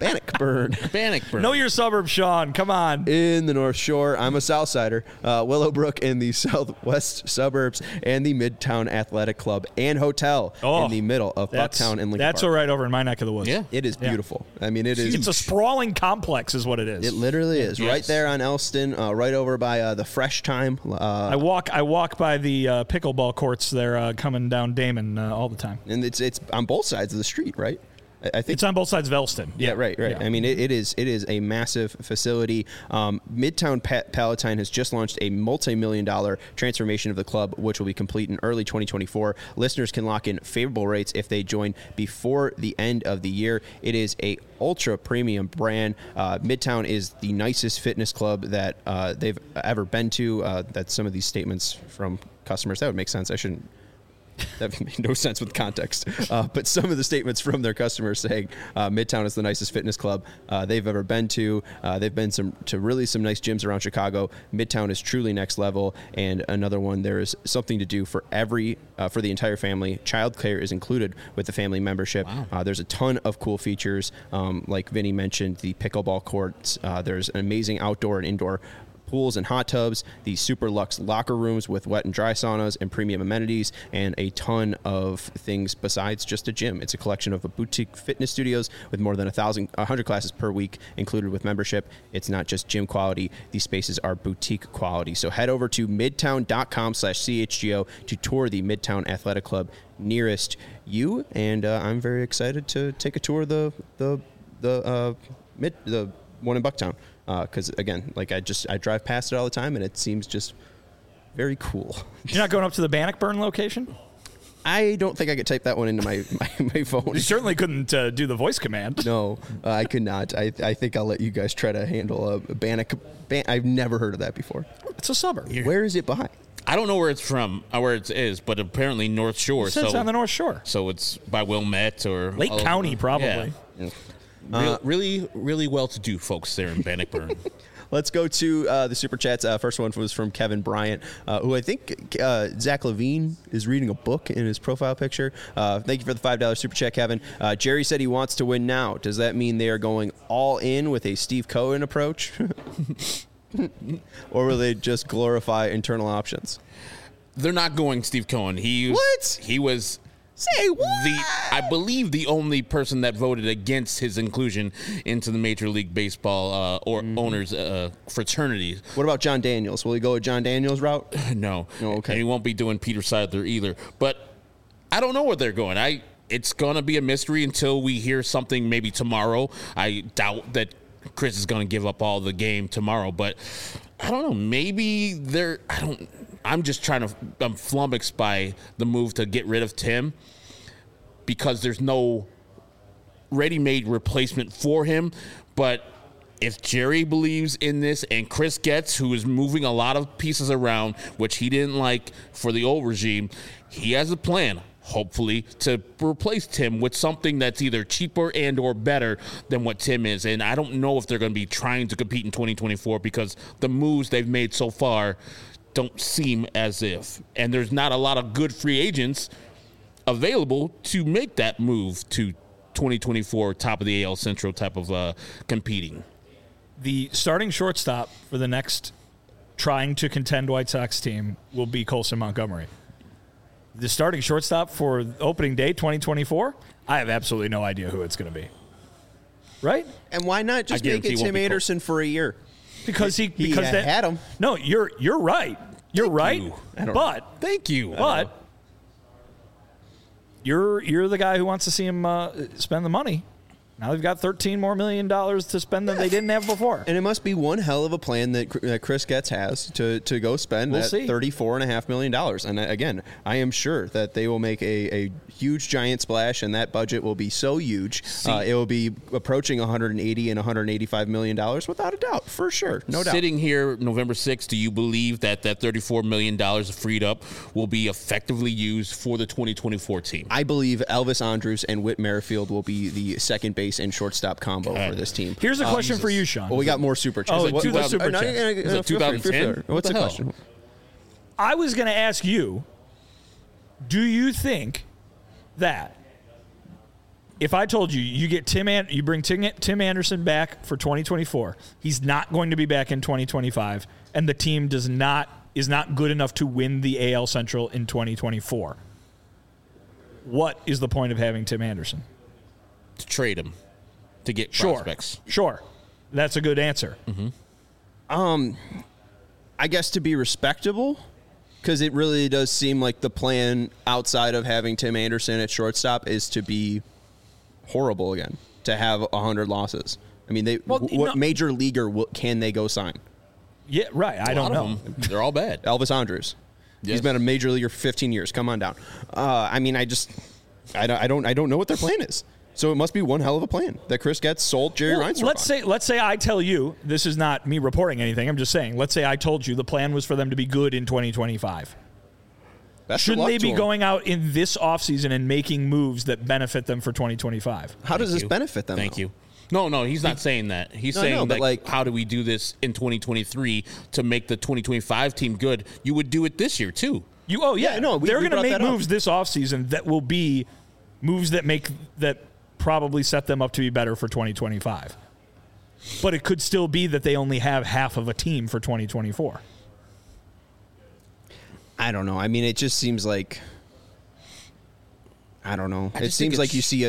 Know your suburbs, Sean. Come on. In the North Shore. I'm a Southsider. Willowbrook in the southwest suburbs, and the Midtown Athletic Club and Hotel in the middle of Bucktown and Lincoln That's Park. right over in my neck of the woods. Yeah. It is beautiful. I mean, it is. It's a sprawling complex is what it is. It literally is. Yes. Right there on Elston, right over by the Fresh Time. I walk by the pickleball courts there coming down Damon all the time. And it's on both sides of the street, right? I think it's on both sides of Elston. Yeah, right. Yeah. I mean, it is a massive facility. Midtown Palatine has just launched a multi-million-dollar transformation of the club, which will be complete in early 2024. Listeners can lock in favorable rates if they join before the end of the year. It is a ultra premium brand. Midtown is the nicest fitness club that they've ever been to. That's some of these statements from customers. That would make sense. That made no sense with context. But some of the statements from their customers saying Midtown is the nicest fitness club they've ever been to. They've been to really some nice gyms around Chicago. Midtown is truly next level. And another one, there is something to do for the entire family. Childcare is included with the family membership. Wow. There's a ton of cool features. Like Vinny mentioned, the pickleball courts. There's an amazing outdoor and indoor pools and hot tubs, the super luxe locker rooms with wet and dry saunas and premium amenities, and a ton of things besides just a gym. It's a collection of boutique fitness studios with more than 100 classes per week included with membership. It's not just gym quality. These spaces are boutique quality. So head over to midtown.com/CHGO to tour the Midtown Athletic Club nearest you. And I'm very excited to take a tour of the one in Bucktown. Because again, like I drive past it all the time, and it seems just very cool. You're not going up to the Bannockburn location? I don't think I could type that one into my phone. You certainly couldn't do the voice command. No, I could not. I think I'll let you guys try to handle a Bannock. I've never heard of that before. It's a suburb. Where is it by? I don't know where it's from, where it is, but apparently North Shore. It's on the North Shore. So it's by Wilmette or Lake County, probably. Yeah. Really, really well-to-do folks there in Bannockburn. Let's go to the Super Chats. First one was from Kevin Bryant, who I think Zach Levine is reading a book in his profile picture. Thank you for the $5 Super Chat, Kevin. Jerry said he wants to win now. Does that mean they are going all in with a Steve Cohen approach? Or will they just glorify internal options? They're not going Steve Cohen. He was... Say what? I believe the only person that voted against his inclusion into the Major League Baseball owners fraternity. What about John Daniels? Will he go a John Daniels route? No. Oh, okay. And he won't be doing Peter Seidler either. But I don't know where they're going. It's going to be a mystery until we hear something maybe tomorrow. I doubt that Chris is going to give up all the game tomorrow. But I don't know. Maybe I'm flummoxed by the move to get rid of Tim because there's no ready-made replacement for him. But if Jerry believes in this and Chris Getz, who is moving a lot of pieces around, which he didn't like for the old regime, he has a plan, hopefully, to replace Tim with something that's either cheaper and or better than what Tim is. And I don't know if they're going to be trying to compete in 2024 because the moves they've made so far don't seem as if. And there's not a lot of good free agents available to make that move to 2024 top of the AL Central type of competing. The starting shortstop for the next trying to contend White Sox team will be Colson Montgomery. The starting shortstop for opening day 2024, I have absolutely no idea who it's going to be. Right? And why not just make it Tim Anderson for a year? Because he had him. No, you're right. You're right. But thank you. But you're the guy who wants to see him spend the money. Now they've got $13 million more to spend than they didn't have before. And it must be one hell of a plan that Chris Getz has to go spend that $34.5 million. And again, I am sure that they will make a huge giant splash, and that budget will be so huge. It will be approaching $180 and $185 million without a doubt, for sure. No doubt. Sitting here November 6th, do you believe that $34 million freed up will be effectively used for the 2024 team? I believe Elvis Andrus and Whit Merrifield will be the second base and shortstop combo for this team. Here's a question for you, Sean. Well, we got more super chats. Oh, the super chats. 2010? What's the question? I was going to ask you, do you think that if I told you you get you bring Tim Anderson back for 2024, he's not going to be back in 2025, and the team is not good enough to win the AL Central in 2024, what is the point of having Tim Anderson? To trade him, to get prospects. Sure. That's a good answer. Mm-hmm. I guess to be respectable, because it really does seem like the plan outside of having Tim Anderson at shortstop is to be horrible again, to have 100 losses. I mean, what major leaguer can they go sign? Yeah, right. I don't know. They're all bad. Elvis Andrus. Yes. He's been a major leaguer for 15 years. Come on down. I mean, I don't know what their plan is. So it must be one hell of a plan that Chris Getz sold Jerry Reinsdorf. Let's say I tell you, this is not me reporting anything. I'm just saying. Let's say I told you the plan was for them to be good in 2025. Shouldn't they be going out in this offseason and making moves that benefit them for 2025? How does this benefit them? Thank you. No, he's not saying that. He's saying that, how do we do this in 2023 to make the 2025 team good? You would do it this year, too. They're going to make moves this offseason that will be moves that probably set them up to be better for 2025. but it could still be that they only have half of a team for 2024. I don't know. I mean, it just seems like, I don't know. It seems like you see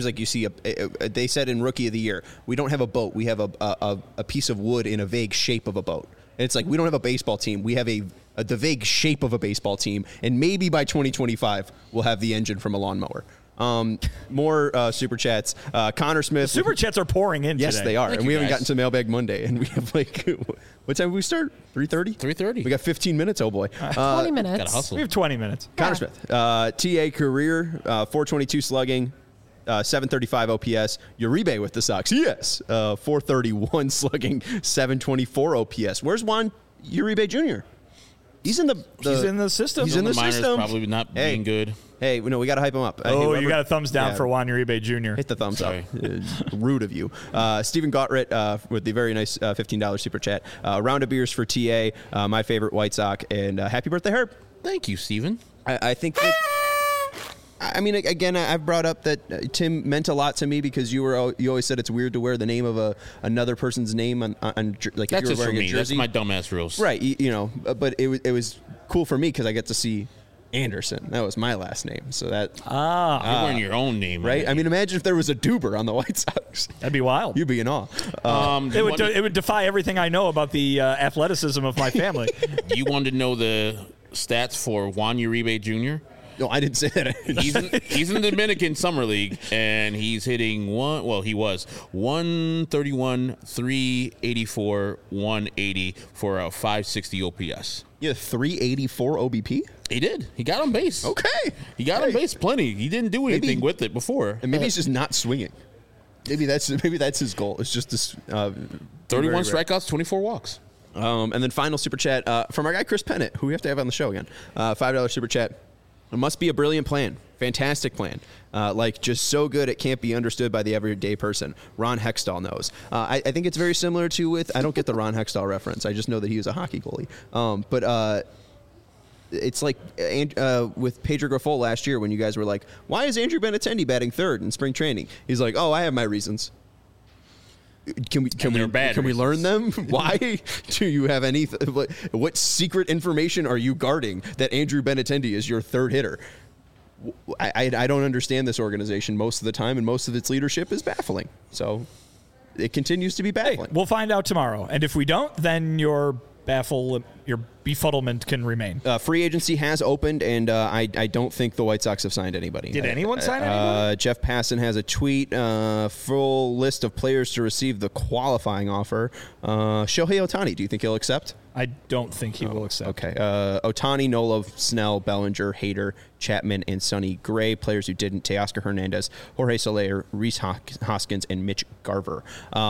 a. They said in Rookie of the Year, we don't have a boat. We have a piece of wood in a vague shape of a boat. And it's like, we don't have a baseball team. We have the vague shape of a baseball team. And maybe by 2025, we'll have the engine from a lawnmower. More super chats. Connor Smith. The super chats are pouring in yes, today. They are. Thank and we you, haven't guys. gotten to Mailbag Monday. And we have what time did we start? 3:30? 3:30. We got 15 minutes, oh boy. 20 minutes. Gotta hustle. We have 20 minutes. Connor Smith, TA career, 422 slugging, 735 OPS. Uribe with the Sox, yes. 431 slugging, 724 OPS. Where's Juan Uribe Jr.? He's in the He's in the system. He's in the minors system. Probably not being good. Hey, no, we got to hype him up. Oh, Hey, you got a thumbs down for Juan Uribe Jr. Hit the thumbs Sorry. up. Rude of you. Stephen Gottritt with the very nice $15 super chat. Round of beers for TA, my favorite White Sox, and happy birthday, Herb. Thank you, Steven. I think that. I mean, again, I've brought up that Tim meant a lot to me because you always said it's weird to wear the name of another person's name on like That's if you were just for wearing a me. That's jersey. my dumbass rules. Right, you know, but it was cool for me because I get to see Anderson. That was my last name, so that You're wearing your own name, right. I mean, imagine if there was a Duber on the White Sox. That'd be wild. You'd be in awe. It would defy everything I know about the athleticism of my family. You wanted to know the stats for Juan Uribe Jr.? No, I didn't say that. He's in the Dominican Summer League, and he's hitting he was 131, 384, 180 for a 560 OPS. Yeah, 384 OBP. He did. He got on base. Okay, He got on base plenty. He didn't do anything with it before. and maybe he's just not swinging. Maybe that's his goal. It's just this 31 strikeouts, 24 walks. And then final super chat from our guy Chris Pennant, who we have to have on the show again. $5 super chat. It must be a brilliant plan. Fantastic plan. Like just so good it can't be understood by the everyday person. Ron Hextall knows. I think it's very similar to with, I don't get the Ron Hextall reference. I just know that he was a hockey goalie. But it's like with Pedro Grifol last year when you guys were like, why is Andrew Benintendi batting third in spring training? He's like, oh, I have my reasons. Can we learn them? Why do you have any? What secret information are you guarding that Andrew Benintendi is your third hitter? I don't understand this organization most of the time, and most of its leadership is baffling. So it continues to be baffling. We'll find out tomorrow, and if we don't, then your befuddlement can remain. Free agency has opened, and I don't think the White Sox have signed anybody. Did anyone sign anybody? Jeff Passan has a tweet, full list of players to receive the qualifying offer. Shohei Ohtani, do you think he'll accept? I don't think he will accept. Okay. Ohtani, Nola, Snell, Bellinger, Hader, Chapman, and Sonny Gray. Players who didn't: Teoscar Hernandez, Jorge Soler, Rhys Hoskins, and Mitch Garver.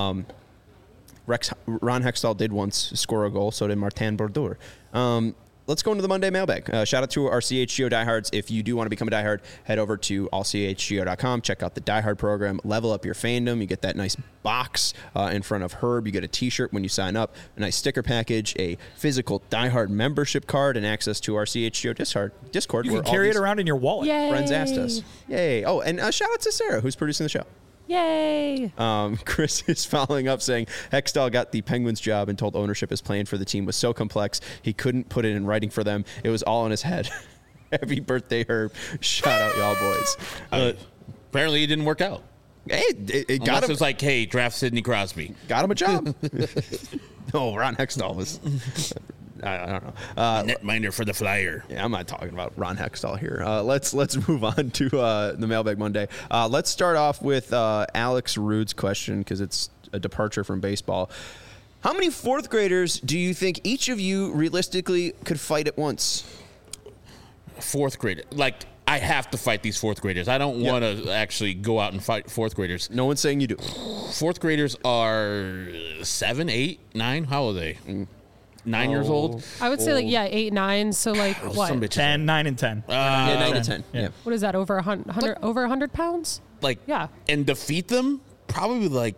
Ron Hextall did once score a goal, so did Martin Brodeur. Let's go into the Monday mailbag. Shout out to our CHGO diehards. If you do want to become a diehard, head over to allchgo.com. Check out the diehard program. Level up your fandom. You get that nice box in front of Herb. You get a t-shirt when you sign up, a nice sticker package, a physical diehard membership card, and access to our CHGO Discord. You can carry it around in your wallet. Yay. Friends asked us. Yay. Oh, and shout out to Sarah, who's producing the show. Yay. Chris is following up saying Hextall got the Penguins job and told ownership his plan for the team was so complex he couldn't put it in writing for them. It was all in his head. Happy birthday, Herb. Shout out, y'all boys. Apparently, it didn't work out. Hey, it got Unless him. it's like, hey, draft Sidney Crosby. Got him a job. No, Ron Hextall was. I don't know. Netminder for the Flyer. Yeah, I'm not talking about Ron Hextall here. Let's move on to the Mailbag Monday. Let's start off with Alex Rude's question because it's a departure from baseball. How many fourth graders do you think each of you realistically could fight at once? Fourth grader. Like, I have to fight these fourth graders. I don't want to actually go out and fight fourth graders. No one's saying you do. Fourth graders are 7, 8, 9. How old are they? 9 years old? I would say 8, 9. So what? Some bitches 10, 9, and 10. Yeah, 9 to 10. Yeah. What is that? Over 100? Over 100 pounds? Like, Yeah. and defeat them? Probably like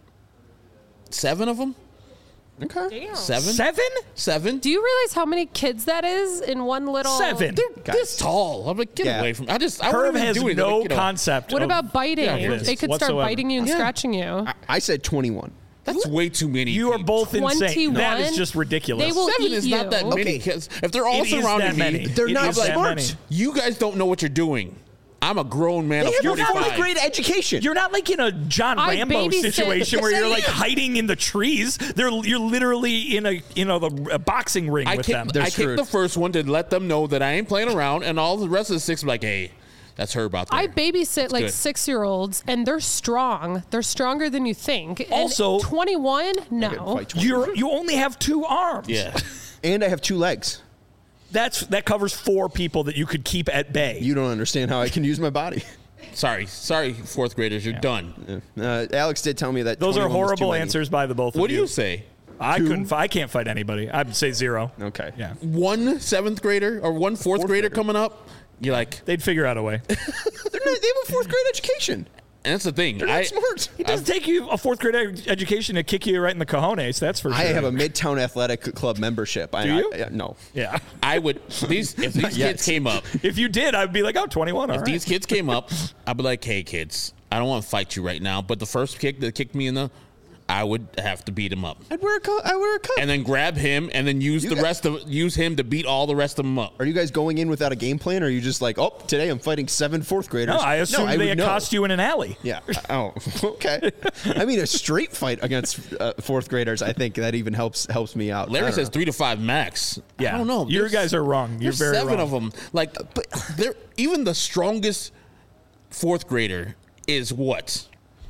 7 of them. Okay. Damn. 7? 7? Do you realize how many kids that is in one little? 7. They're this tall. I'm like, get away from me. I Herb wouldn't even has do it. no Like, concept. What of about biting? this They could start whatsoever. biting you and scratching you. I said 21. That's way too many. You are people. both insane. 21? That is just ridiculous. They will 7 eat is not that you. many. Because if they're all It is surrounding that many. me, They're It not is that smart. many. you guys don't know what you're doing. I'm a grown man of They have a 45. fourth grade education. You're not like in a John I Rambo babysit- situation where Yes, you're I like am. hiding in the trees. You're literally in a boxing ring I with them. They're kicked screwed. the first one to let them know that I ain't playing around, and all the rest of the 6 were like, hey, that's her about there. I babysit like good. 6-year-olds, and they're strong. They're stronger than you think. And Also- 21, no. Fight 20. You only have 2 arms. Yeah. And I have 2 legs. That covers 4 people that you could keep at bay. You don't understand how I can use my body. Sorry, 4th graders, you're done. Alex did tell me that Those are 21 was too horrible many. answers by the both What of do you say? I can't fight anybody. I'd say 0. Okay. Yeah. One 7th grader or one fourth grader coming up? You're like, They'd figure out a way. They have a 4th grade education. and that's the thing. They're not smart. It doesn't take you a 4th grade education to kick you right in the cojones. That's for sure. I have a Midtown Athletic Club membership. Do you? No. Yeah. I would if these yet. kids came up, If you did, I'd be like, oh, 21. All if right. these kids came up, I'd be like, hey kids, I don't want to fight you right now, but the first kick that kicked me in the, I would have to beat him up. I wear a cup. And then grab him and then use use him to beat all the rest of them up. Are you guys going in without a game plan, or are you just like, oh, today I'm fighting 7 4th graders? No, I assume they would know. accost you in an alley. Yeah. Oh, okay. I mean, a straight fight against 4th graders, I think that even helps me out. I Larry don't says know. 3 to 5 max. Yeah. I don't know. You There's- guys are wrong. You're There's very 7 wrong. of them. Like, but they're even the strongest 4th grader is what?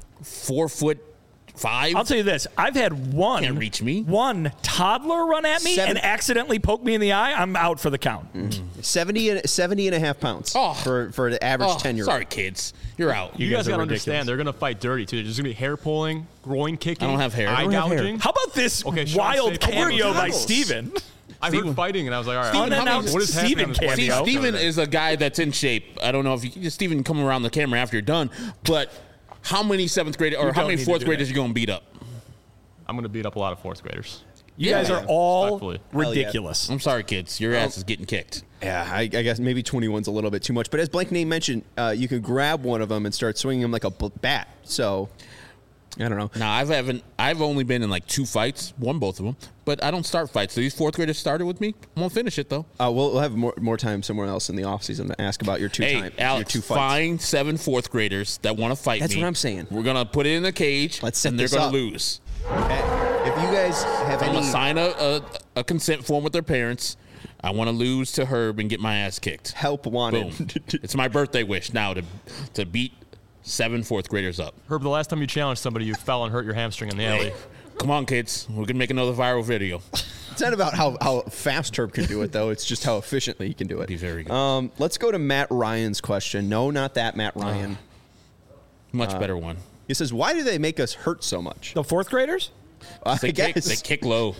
4'5". I'll tell you this. I've had Can't reach me. one toddler run at me 7 and accidentally poke me in the eye. I'm out for the count. 70 and a half pounds Oh. for the average 10-year-old. Sorry, kids. You're out. You guys are gotta ridiculous. understand, they're gonna fight dirty too. There's just gonna be hair pulling, groin kicking. I don't have hair. Eye I don't have hair. gouging. How about this Okay, Sean, wild say- cameo by goggles. Steven? I heard fighting, and I was like, all right, Steven what announced is happening Steven on this West cameo. See, Coast Steven over there? is a guy that's in shape. I don't know if you Steven come around the camera after you're done, but how many 7th graders or You how don't many need to 4th do graders that. you gonna beat up? I'm gonna beat up a lot of 4th graders. You guys are all Respectfully. ridiculous. I'm sorry, kids. Your ass is getting kicked. Yeah, I guess maybe 21's a little bit too much. But as Blank Name mentioned, you can grab one of them and start swinging them like a bat. So, I don't know. Now I've only been in like 2 fights, won both of them, but I don't start fights. So these 4th graders started with me. I'm gonna finish it though. We'll have more time somewhere else in the offseason to ask about your Hey, Alex, your 2 fights. find 7 4th graders that want to fight That's me. what I'm saying. We're gonna put it in a cage. Let's set and they're this gonna up. lose. Okay. If you guys have I'm any, gonna sign a consent form with their parents. I want to lose to Herb and get my ass kicked. help Boom. wanted. It's my birthday wish now to beat 7 4th graders up. Herb, the last time you challenged somebody, you fell and hurt your hamstring in the alley. Come on, kids. We can make another viral video. It's not about how fast Herb can do it, though. It's just how efficiently he can do it. Be very good. Let's go to Matt Ryan's question. No, not that Matt Ryan. Much better one. He says, why do they make us hurt so much? The 4th graders? I They guess kick low.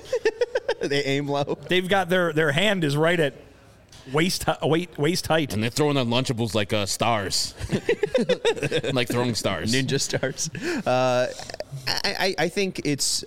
they aim low. They've got their hand is right at waist height. And they're throwing the Lunchables like stars. Like throwing stars. Ninja stars. I think it's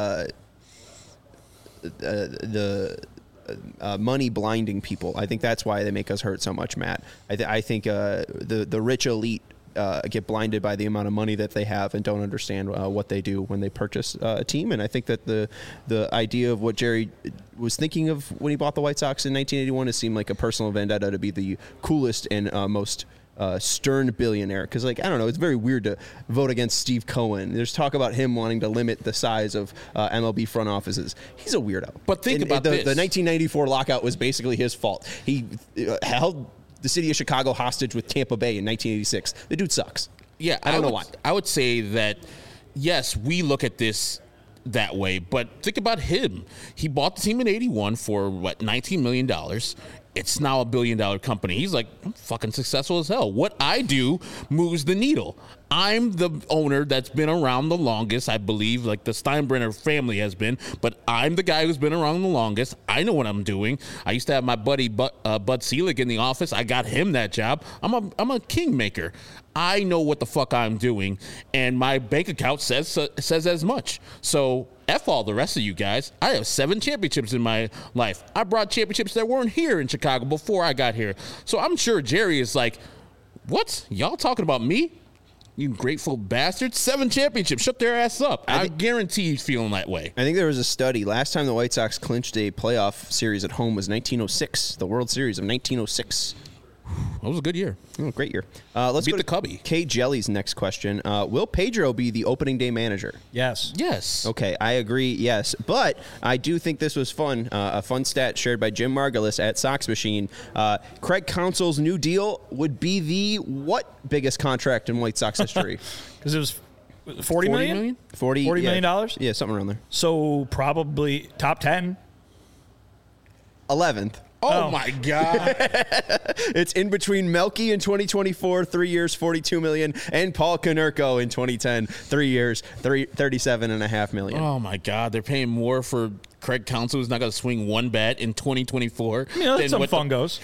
the money blinding people. I think that's why they make us hurt so much, Matt. I think the rich elite get blinded by the amount of money that they have and don't understand what they do when they purchase a team. And I think that the idea of what Jerry was thinking of when he bought the White Sox in 1981 has seemed like a personal vendetta to be the coolest and most stern billionaire. Because, like, I don't know, it's very weird to vote against Steve Cohen. There's talk about him wanting to limit the size of MLB front offices. He's a weirdo. But think about the this. 1994 lockout was basically his fault. He held the city of Chicago hostage with Tampa Bay in 1986. The dude sucks. Yeah, I don't know why. I would say that, yes, we look at this that way, but think about him. He bought the team in 81 for, $19 million. It's now $1 billion company. He's like, I'm fucking successful as hell. What I do moves the needle. I'm the owner that's been around the longest, I believe, like the Steinbrenner family has been, but I'm the guy who's been around the longest. I know what I'm doing. I used to have my buddy Bud Selig in the office. I got him that job. I'm a kingmaker. I know what the fuck I'm doing, and my bank account says as much. So F all the rest of you guys. I have 7 championships in my life. I brought championships that weren't here in Chicago before I got here. So I'm sure Jerry is like, what? Y'all talking about me? You grateful bastards. 7 championships. Shut their ass up. I guarantee he's feeling that way. I think there was a study. Last time the White Sox clinched a playoff series at home was 1906, the World Series of 1906. That was a good year. Oh, great year. Let's Beat go to the Cubby. Kate Jelly's next question. Will Pedro be the opening day manager? Yes. Yes. Okay, I agree, yes. But I do think this was fun. A fun stat shared by Jim Margulis at Sox Machine. Craig Counsell's new deal would be the what biggest contract in White Sox history? Because it was $40 million? $40 million dollars? Yeah, something around there. So probably top 10. 11th. Oh, my God. It's in between Melky in 2024, 3 years, $42 million, and Paul Konerko in 2010, 3 years, $37.5 million. Oh, my God. They're paying more for Craig Counsell, who's not going to swing one bat in 2024. That's some fungos.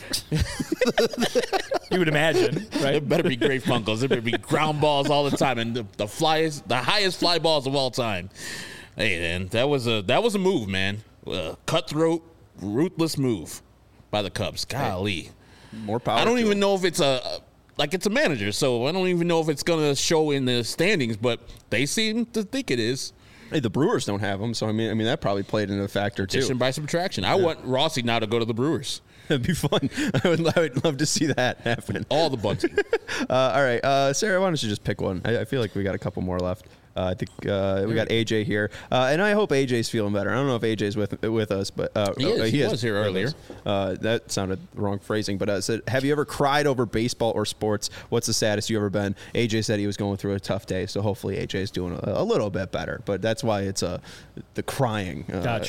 You would imagine, right? It better be great fungos. There better be ground balls all the time, and the highest fly balls of all time. Hey, man, that was a move, man. Cutthroat, ruthless move by the Cubs. Golly. More power. I don't to even him. know if it's it's a manager, so I don't even know if it's going to show in the standings, but they seem to think it is. Hey, the Brewers don't have him, so I mean that probably played into a factor too. Addition by subtraction. I want Rossi now to go to the Brewers. That'd be fun. I would love to see that happen. All the bunting. All right, Sarah, why don't you just pick one? I feel like we got a couple more left. I think we got AJ here, and I hope AJ's feeling better. I don't know if AJ's with us, but he was here earlier. That sounded wrong phrasing, but said, have you ever cried over baseball or sports? What's the saddest you ever been? AJ said he was going through a tough day, so hopefully AJ's doing a little bit better. But that's why it's the crying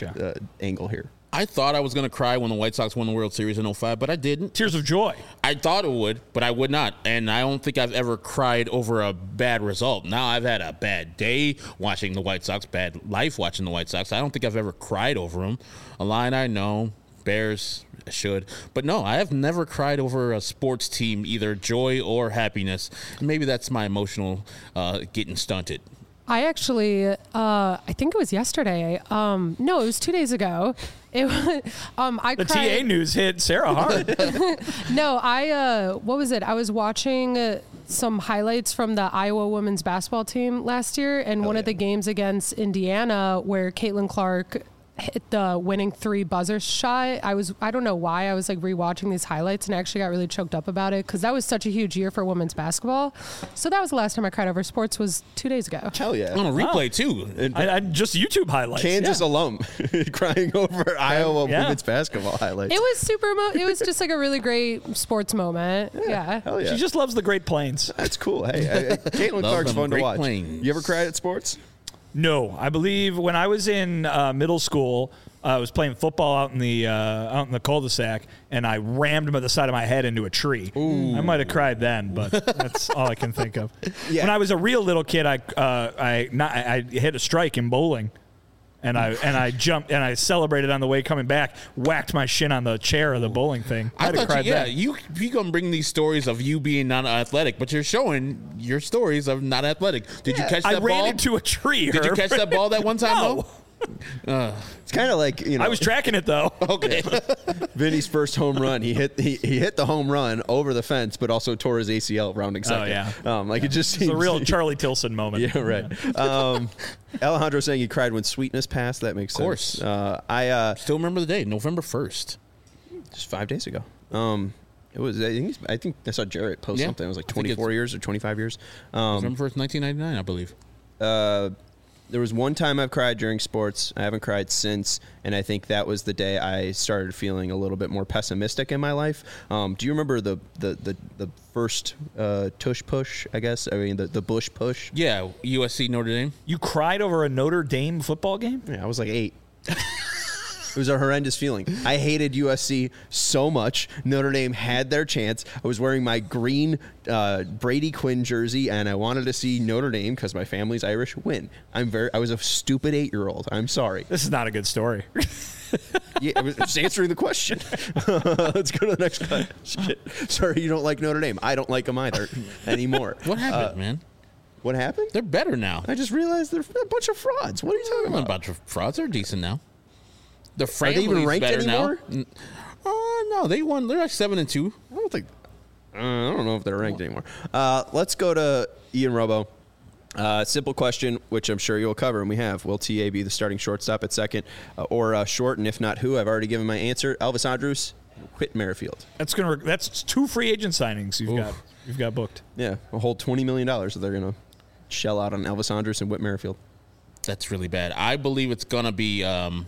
angle here. I thought I was going to cry when the White Sox won the World Series in 2005, but I didn't. Tears of joy. I thought it would, but I would not. And I don't think I've ever cried over a bad result. Now I've had a bad day watching the White Sox, bad life watching the White Sox. I don't think I've ever cried over them. Illini, no. Bears, I should. But no, I have never cried over a sports team, either joy or happiness. Maybe that's my emotional getting stunted. I actually, I think it was yesterday. No, it was 2 days ago. It was, I the cried. TA news hit Sarah hard. No, what was it? I was watching some highlights from the Iowa women's basketball team last year, and one of the games against Indiana where Caitlin Clark hit the winning 3 buzzer shot. I don't know why I was like rewatching these highlights and actually got really choked up about it because that was such a huge year for women's basketball. So that was the last time I cried over sports was 2 days ago. Hell yeah. On a replay, too. I just YouTube highlights. Kansas alum crying over Iowa women's basketball highlights. It was it was just like a really great sports moment. Yeah. Hell yeah. She just loves the Great Plains. That's cool. Hey, Caitlin Clark's fun to watch. Plains. You ever cried at sports? No, I believe when I was in middle school, I was playing football out in the cul-de-sac, and I rammed the side of my head into a tree. Ooh. I might have cried then, but that's all I can think of. Yeah. When I was a real little kid, I hit a strike in bowling, and I jumped and I celebrated on the way coming back. Whacked my shin on the chair of the bowling thing. I'd have cried then. You gonna bring these stories of you being non-athletic, but you're showing your stories of not athletic. Did you catch that ball? I ran into a tree. Did you catch that ball that one time? No. It's kind of like, I was tracking it though. Okay. Vinny's first home run. He hit the home run over the fence, but also tore his ACL rounding second. Oh yeah. It just seems it's a real Charlie Tilson moment. Yeah, right. Yeah. Alejandro saying he cried when Sweetness passed. That makes sense. Of course. I still remember the day, November 1st. Just 5 days ago. It was. I think I saw Jarrett post something. It was like 24 years or 25 years. November 1st, 1999, I believe. There was one time I've cried during sports. I haven't cried since, and I think that was the day I started feeling a little bit more pessimistic in my life. Do you remember the first tush push? I guess the Bush push. Yeah, USC Notre Dame. You cried over a Notre Dame football game? Yeah, I was like 8. It was a horrendous feeling. I hated USC so much. Notre Dame had their chance. I was wearing my green Brady Quinn jersey, and I wanted to see Notre Dame because my family's Irish win. I was a stupid 8-year-old. I'm sorry. This is not a good story. Yeah, I was just answering the question. Let's go to the next question. Sorry, you don't like Notre Dame. I don't like them either anymore. What happened, man? What happened? They're better now. I just realized they're a bunch of frauds. What are you talking about? A bunch of frauds. They're decent now. The Are they even ranked better anymore? now. No, they won. They're like 7-2. I don't don't know if they're ranked anymore. Let's go to Ian Robo. Simple question, which I'm sure you'll cover, and we have. Will TA be the starting shortstop at second or short? And if not, who? I've already given my answer. Elvis Andrus, Whit Merrifield. That's 2 free agent signings you've got booked. Yeah, a whole $20 million that they're going to shell out on Elvis Andrus and Whit Merrifield. That's really bad. I believe it's going to be Adalberto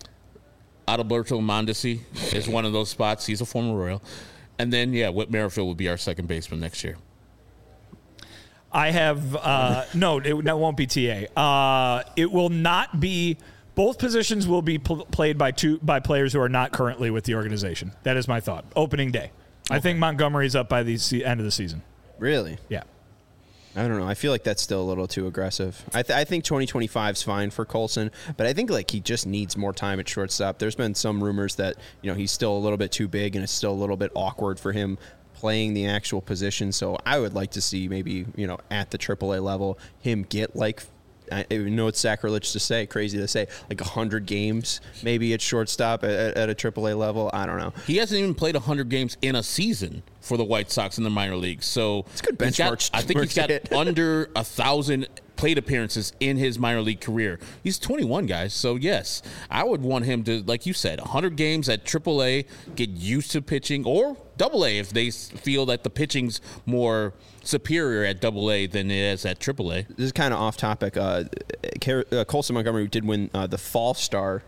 Mondesi is one of those spots. He's a former Royal. And then, Whit Merrifield will be our second baseman next year. I have that won't be TA. It will not be. Both positions will be played by players who are not currently with the organization. That is my thought. Opening day. Okay. I think Montgomery's up by the end of the season. Really? Yeah. I don't know. I feel like that's still a little too aggressive. I think 2025 is fine for Colson, but I think he just needs more time at shortstop. There's been some rumors that he's still a little bit too big and it's still a little bit awkward for him playing the actual position. So I would like to see maybe at the AAA level him get I know it's sacrilege to say, crazy to say, 100 games maybe at shortstop at a AAA level. I don't know. He hasn't even played 100 games in a season for the White Sox in the minor leagues. So it's a good benchmark. I think he's got under 1,000 plate appearances in his minor league career. He's 21, guys. So, yes, I would want him to, like you said, 100 games at AAA, get used to pitching, or AA if they feel that the pitching's more superior at AA than it is at AAA. This is kind of off topic. Colson Montgomery did win the Fall Star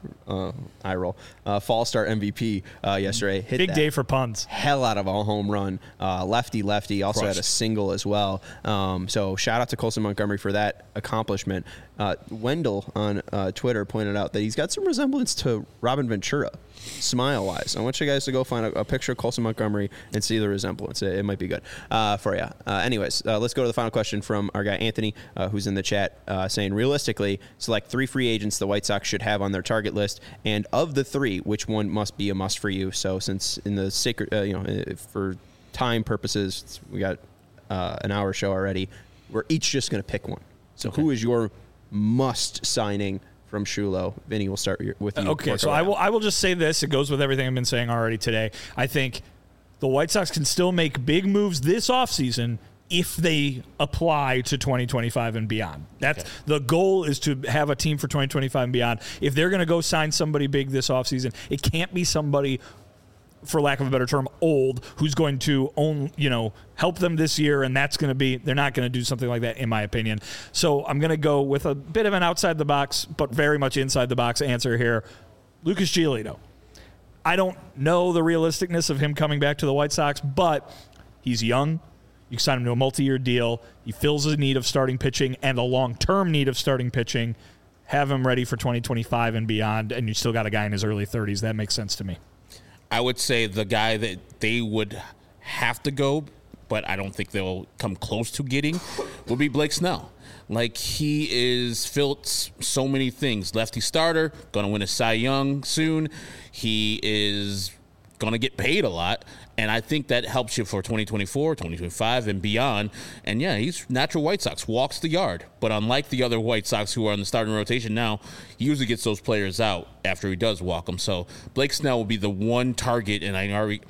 Fall Star MVP yesterday. Hit big day for puns. Hell out of a home run. Lefty. Also had a single as well. So shout out to Colson Montgomery for that accomplishment. Wendell on Twitter pointed out that he's got some resemblance to Robin Ventura, smile-wise. I want you guys to go find a picture of Colson Montgomery and see the resemblance. It might be good for you. Anyways, let's go to the final question from our guy Anthony, who's in the chat, saying, realistically, select 3 free agents the White Sox should have on their target list, and of the 3, which one must be a must for you? So since in the sacred, for time purposes, we got an hour show already, we're each just going to pick one. So who is your must signing from Shulo? Vinny, we'll start with you. Okay, so I will just say this. It goes with everything I've been saying already today. I think the White Sox can still make big moves this offseason if they apply to 2025 and beyond. That's the goal, is to have a team for 2025 and beyond. If they're going to go sign somebody big this offseason, it can't be somebody, for lack of a better term, old, who's going to help them this year, and they're not going to do something like that, in my opinion. So I'm going to go with a bit of an outside the box, but very much inside the box answer here. Lucas Giolito. I don't know the realisticness of him coming back to the White Sox, but he's young. You sign him to a multi-year deal. He fills a need of starting pitching and a long-term need of starting pitching. Have him ready for 2025 and beyond, and you still got a guy in his early 30s. That makes sense to me. I would say the guy that they would have to go, but I don't think they'll come close to getting, would be Blake Snell. He is filled so many things. Lefty starter, going to win a Cy Young soon. He is going to get paid a lot, and I think that helps you for 2024, 2025, and beyond. And, he's natural White Sox, walks the yard. But unlike the other White Sox who are on the starting rotation now, he usually gets those players out after he does walk them. So Blake Snell will be the one target, and he already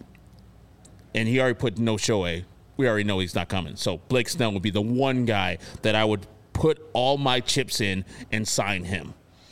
put no Shohei. We already know he's not coming. So Blake Snell would be the one guy that I would put all my chips in and sign him.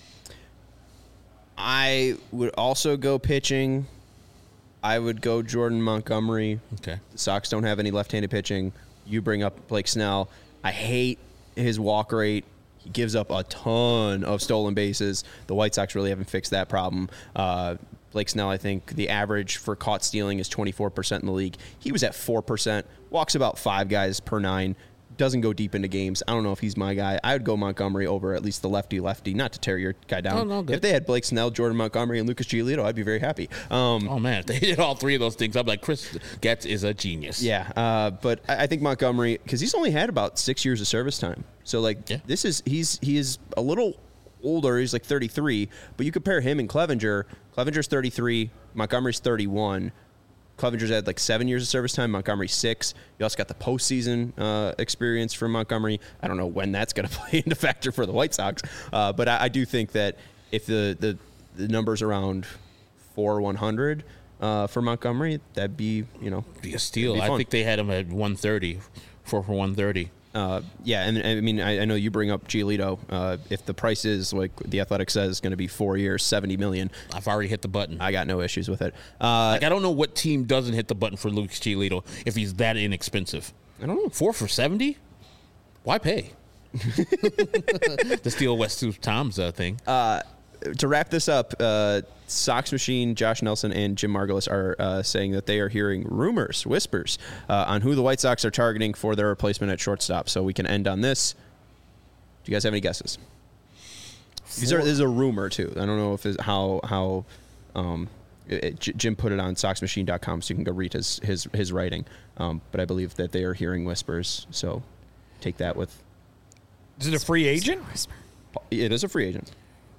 I would also go pitching. I would go Jordan Montgomery. Okay. The Sox don't have any left-handed pitching. You bring up Blake Snell. I hate his walk rate. He gives up a ton of stolen bases. The White Sox really haven't fixed that problem. Blake Snell, I think the average for caught stealing is 24% in the league. He was at 4%, walks about 5 guys per 9, doesn't go deep into games. I don't know if he's my guy. I would go Montgomery over at least the lefty, not to tear your guy down. No, if they had Blake Snell, Jordan Montgomery, and Lucas Giolito, I'd be very happy. Oh, man, if they did all 3 of those things, I'd be like, Chris Getz is a genius. Yeah, but I think Montgomery, because he's only had about 6 years of service time. So, he is a little older. He's 33, but you compare him and Clevenger. Clevenger's 33, Montgomery's 31. Clevenger's had 7 years of service time, Montgomery 6. You also got the postseason experience from Montgomery. I don't know when that's going to play into factor for the White Sox, but I do think that if the numbers around 4,100, for Montgomery, that'd be, be a steal. I think they had him at 130, for 130. Yeah, and I mean, I know you bring up Giolito. If the price is like the Athletic says going to be 4 years, $70 million. I've already hit the button. I got no issues with it. I don't know what team doesn't hit the button for Lucas Giolito if he's that inexpensive. I don't know. 4 for 70? Why pay? The steal West Tom's thing. To wrap this up, Sox Machine, Josh Nelson, and Jim Margulis are saying that they are hearing rumors, whispers, on who the White Sox are targeting for their replacement at shortstop. So we can end on this. Do you guys have any guesses? This is a rumor, too. I don't know if it's how Jim put it on SoxMachine.com, so you can go read his writing. But I believe that they are hearing whispers. So take that with... Is it a free agent? It is a free agent.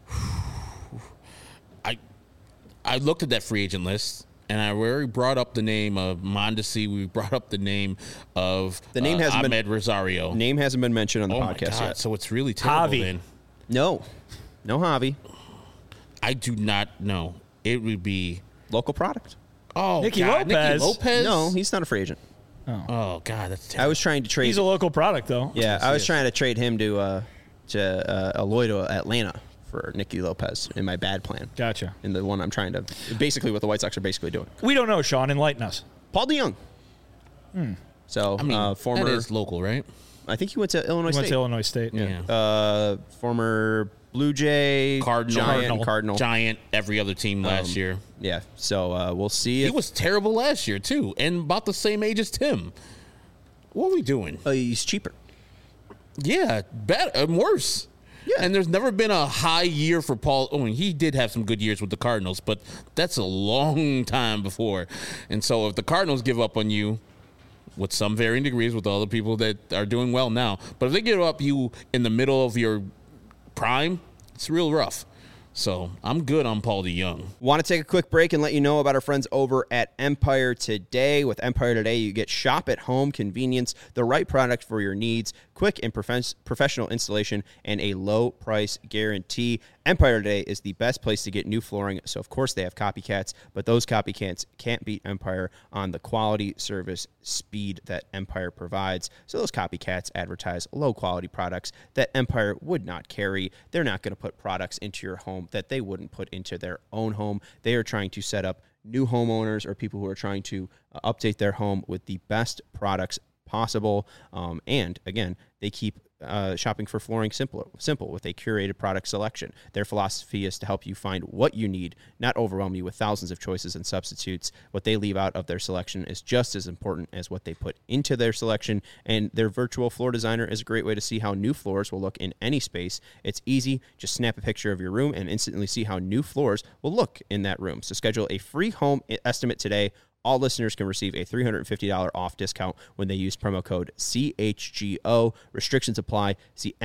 I looked at that free agent list, and I already brought up the name of Mondesi. We brought up the name of Ahmed Rosario. Name hasn't been mentioned on the podcast yet. So it's really terrible Javi. then. No Javi. I do not know. It would be... Local product. Oh, Nicky God. Lopez. Nicky Lopez? No, he's not a free agent. Oh, God, that's terrible. I was trying to trade... He's a local product, though. Yeah, I was trying to trade him to Eloy to Atlanta for Nicky Lopez in my bad plan. Gotcha. In the one I'm trying to... Basically what the White Sox are basically doing. We don't know, Sean. Enlighten us. Paul DeJong. So, I mean, former... that is local, right? I think he went to Illinois State. Went to Illinois State. Yeah. Former Blue Jay, Cardinal. Giant, every other team last year. Yeah, so we'll see. He was terrible last year, too, and about the same age as Tim. What are we doing? He's cheaper. Yeah, better, worse. Yeah. And there's never been a high year for Paul. I mean, he did have some good years with the Cardinals, but that's a long time before. And so if the Cardinals give up on you, with some varying degrees with all the people that are doing well now, but if they give up you in the middle of your prime, it's real rough. So I'm good on Paul DeJong. Want to take a quick break and let you know about our friends over at Empire Today. With Empire Today, you get shop at home convenience, the right product for your needs, quick and professional installation, and a low price guarantee. Empire Today is the best place to get new flooring, so of course they have copycats, but those copycats can't beat Empire on the quality, service, speed that Empire provides. So those copycats advertise low-quality products that Empire would not carry. They're not going to put products into your home that they wouldn't put into their own home. They are trying to set up new homeowners or people who are trying to update their home with the best products possible. And again, they keep shopping for flooring simple with a curated product selection. Their philosophy is to help you find what you need, not overwhelm you with thousands of choices and substitutes. What they leave out of their selection is just as important as what they put into their selection, and their virtual floor designer is a great way to see how new floors will look in any space. It's easy. Just snap a picture of your room and instantly see how new floors will look in that room. So schedule a free home estimate today. All listeners can receive a $350 off discount when they use promo code CHGO. Restrictions apply. See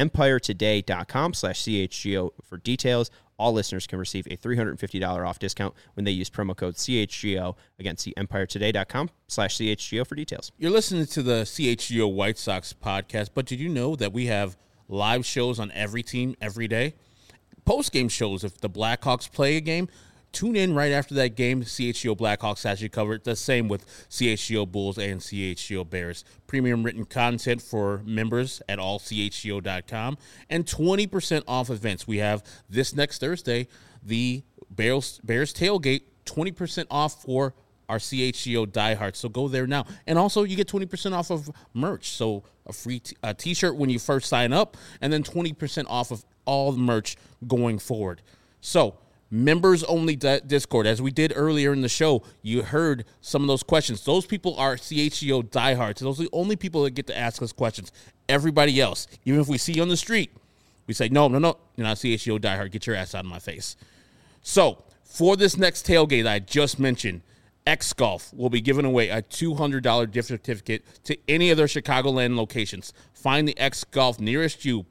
EmpireToday.com/CHGO for details. All listeners can receive a $350 off discount when they use promo code CHGO. Again, see EmpireToday.com/CHGO for details. You're listening to the CHGO White Sox podcast, but did you know that we have live shows on every team every day? Post-game shows. If the Blackhawks play a game, tune in right after that game. CHGO Blackhawks has you covered. The same with CHGO Bulls and CHGO Bears. Premium written content for members at allchgo.com. And 20% off events. We have this next Thursday, the Bears Tailgate, 20% off for our CHGO diehards. So go there now. And also you get 20% off of merch. So a free t-shirt when you first sign up, and then 20% off of all the merch going forward. So members only Discord. As we did earlier in the show, you heard some of those questions. Those people are CHGO diehards. Those are the only people that get to ask us questions. Everybody else, even if we see you on the street, we say, no, you're not CHGO diehard. Get your ass out of my face. So for this next tailgate that I just mentioned, X Golf will be giving away a $200 gift certificate to any of their Chicagoland locations. Find the X Golf nearest you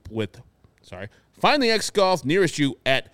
at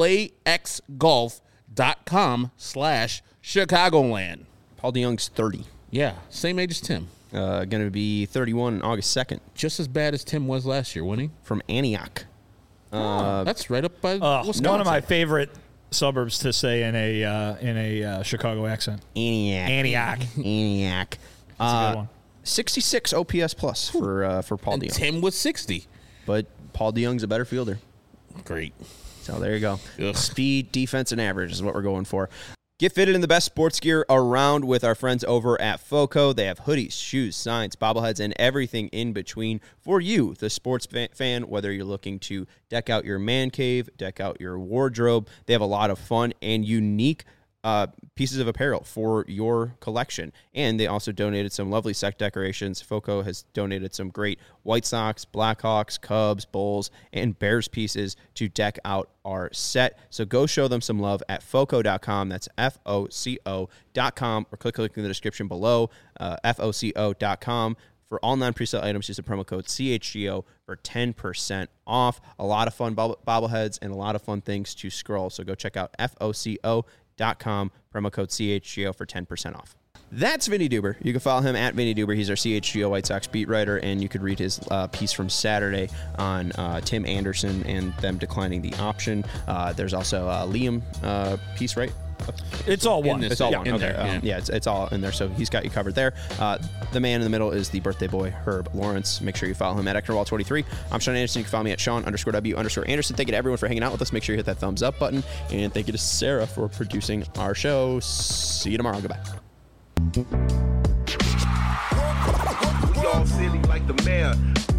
playxgolf.com/Chicagoland. Paul DeJong's 30. Yeah, same age as Tim. Going to be 31 on August 2nd. Just as bad as Tim was last year, wasn't he? From Antioch. That's right up by One of my favorite suburbs to say in a Chicago accent. Antioch. That's a good one. 66 OPS plus for Paul And DeYoung. Tim was 60. But Paul DeYoung's a better fielder. Great. So there you go. Ugh. Speed, defense, and average is what we're going for. Get fitted in the best sports gear around with our friends over at FOCO. They have hoodies, shoes, signs, bobbleheads, and everything in between for you, the sports fan, whether you're looking to deck out your man cave, deck out your wardrobe. They have a lot of fun and unique pieces of apparel for your collection. And they also donated some lovely set decorations. FOCO has donated some great White Sox, Blackhawks, Cubs, Bulls, and Bears pieces to deck out our set. So go show them some love at FOCO.com. That's FOCO.com, or click in the description below, FOCO.com. For all non-presale items, use the promo code CHGO for 10% off. A lot of fun bobbleheads and a lot of fun things to scroll. So go check out FOCO.com, promo code CHGO for 10% off. That's Vinny Duber. You can follow him at Vinny Duber. He's our CHGO White Sox beat writer, and you could read his piece from Saturday on Tim Anderson and them declining the option. There's also a Liam piece, right? It's all one. It's all one. in Okay. there, yeah. It's all in there. So he's got you covered there. The man in the middle is the birthday boy, Herb Lawrence. Make sure you follow him at Ecknerwall23. I'm Sean Anderson. You can follow me at Sean_W_Anderson. Thank you to everyone for hanging out with us. Make sure you hit that thumbs up button. And thank you to Sarah for producing our show. See you tomorrow. Goodbye. We all silly like the mayor.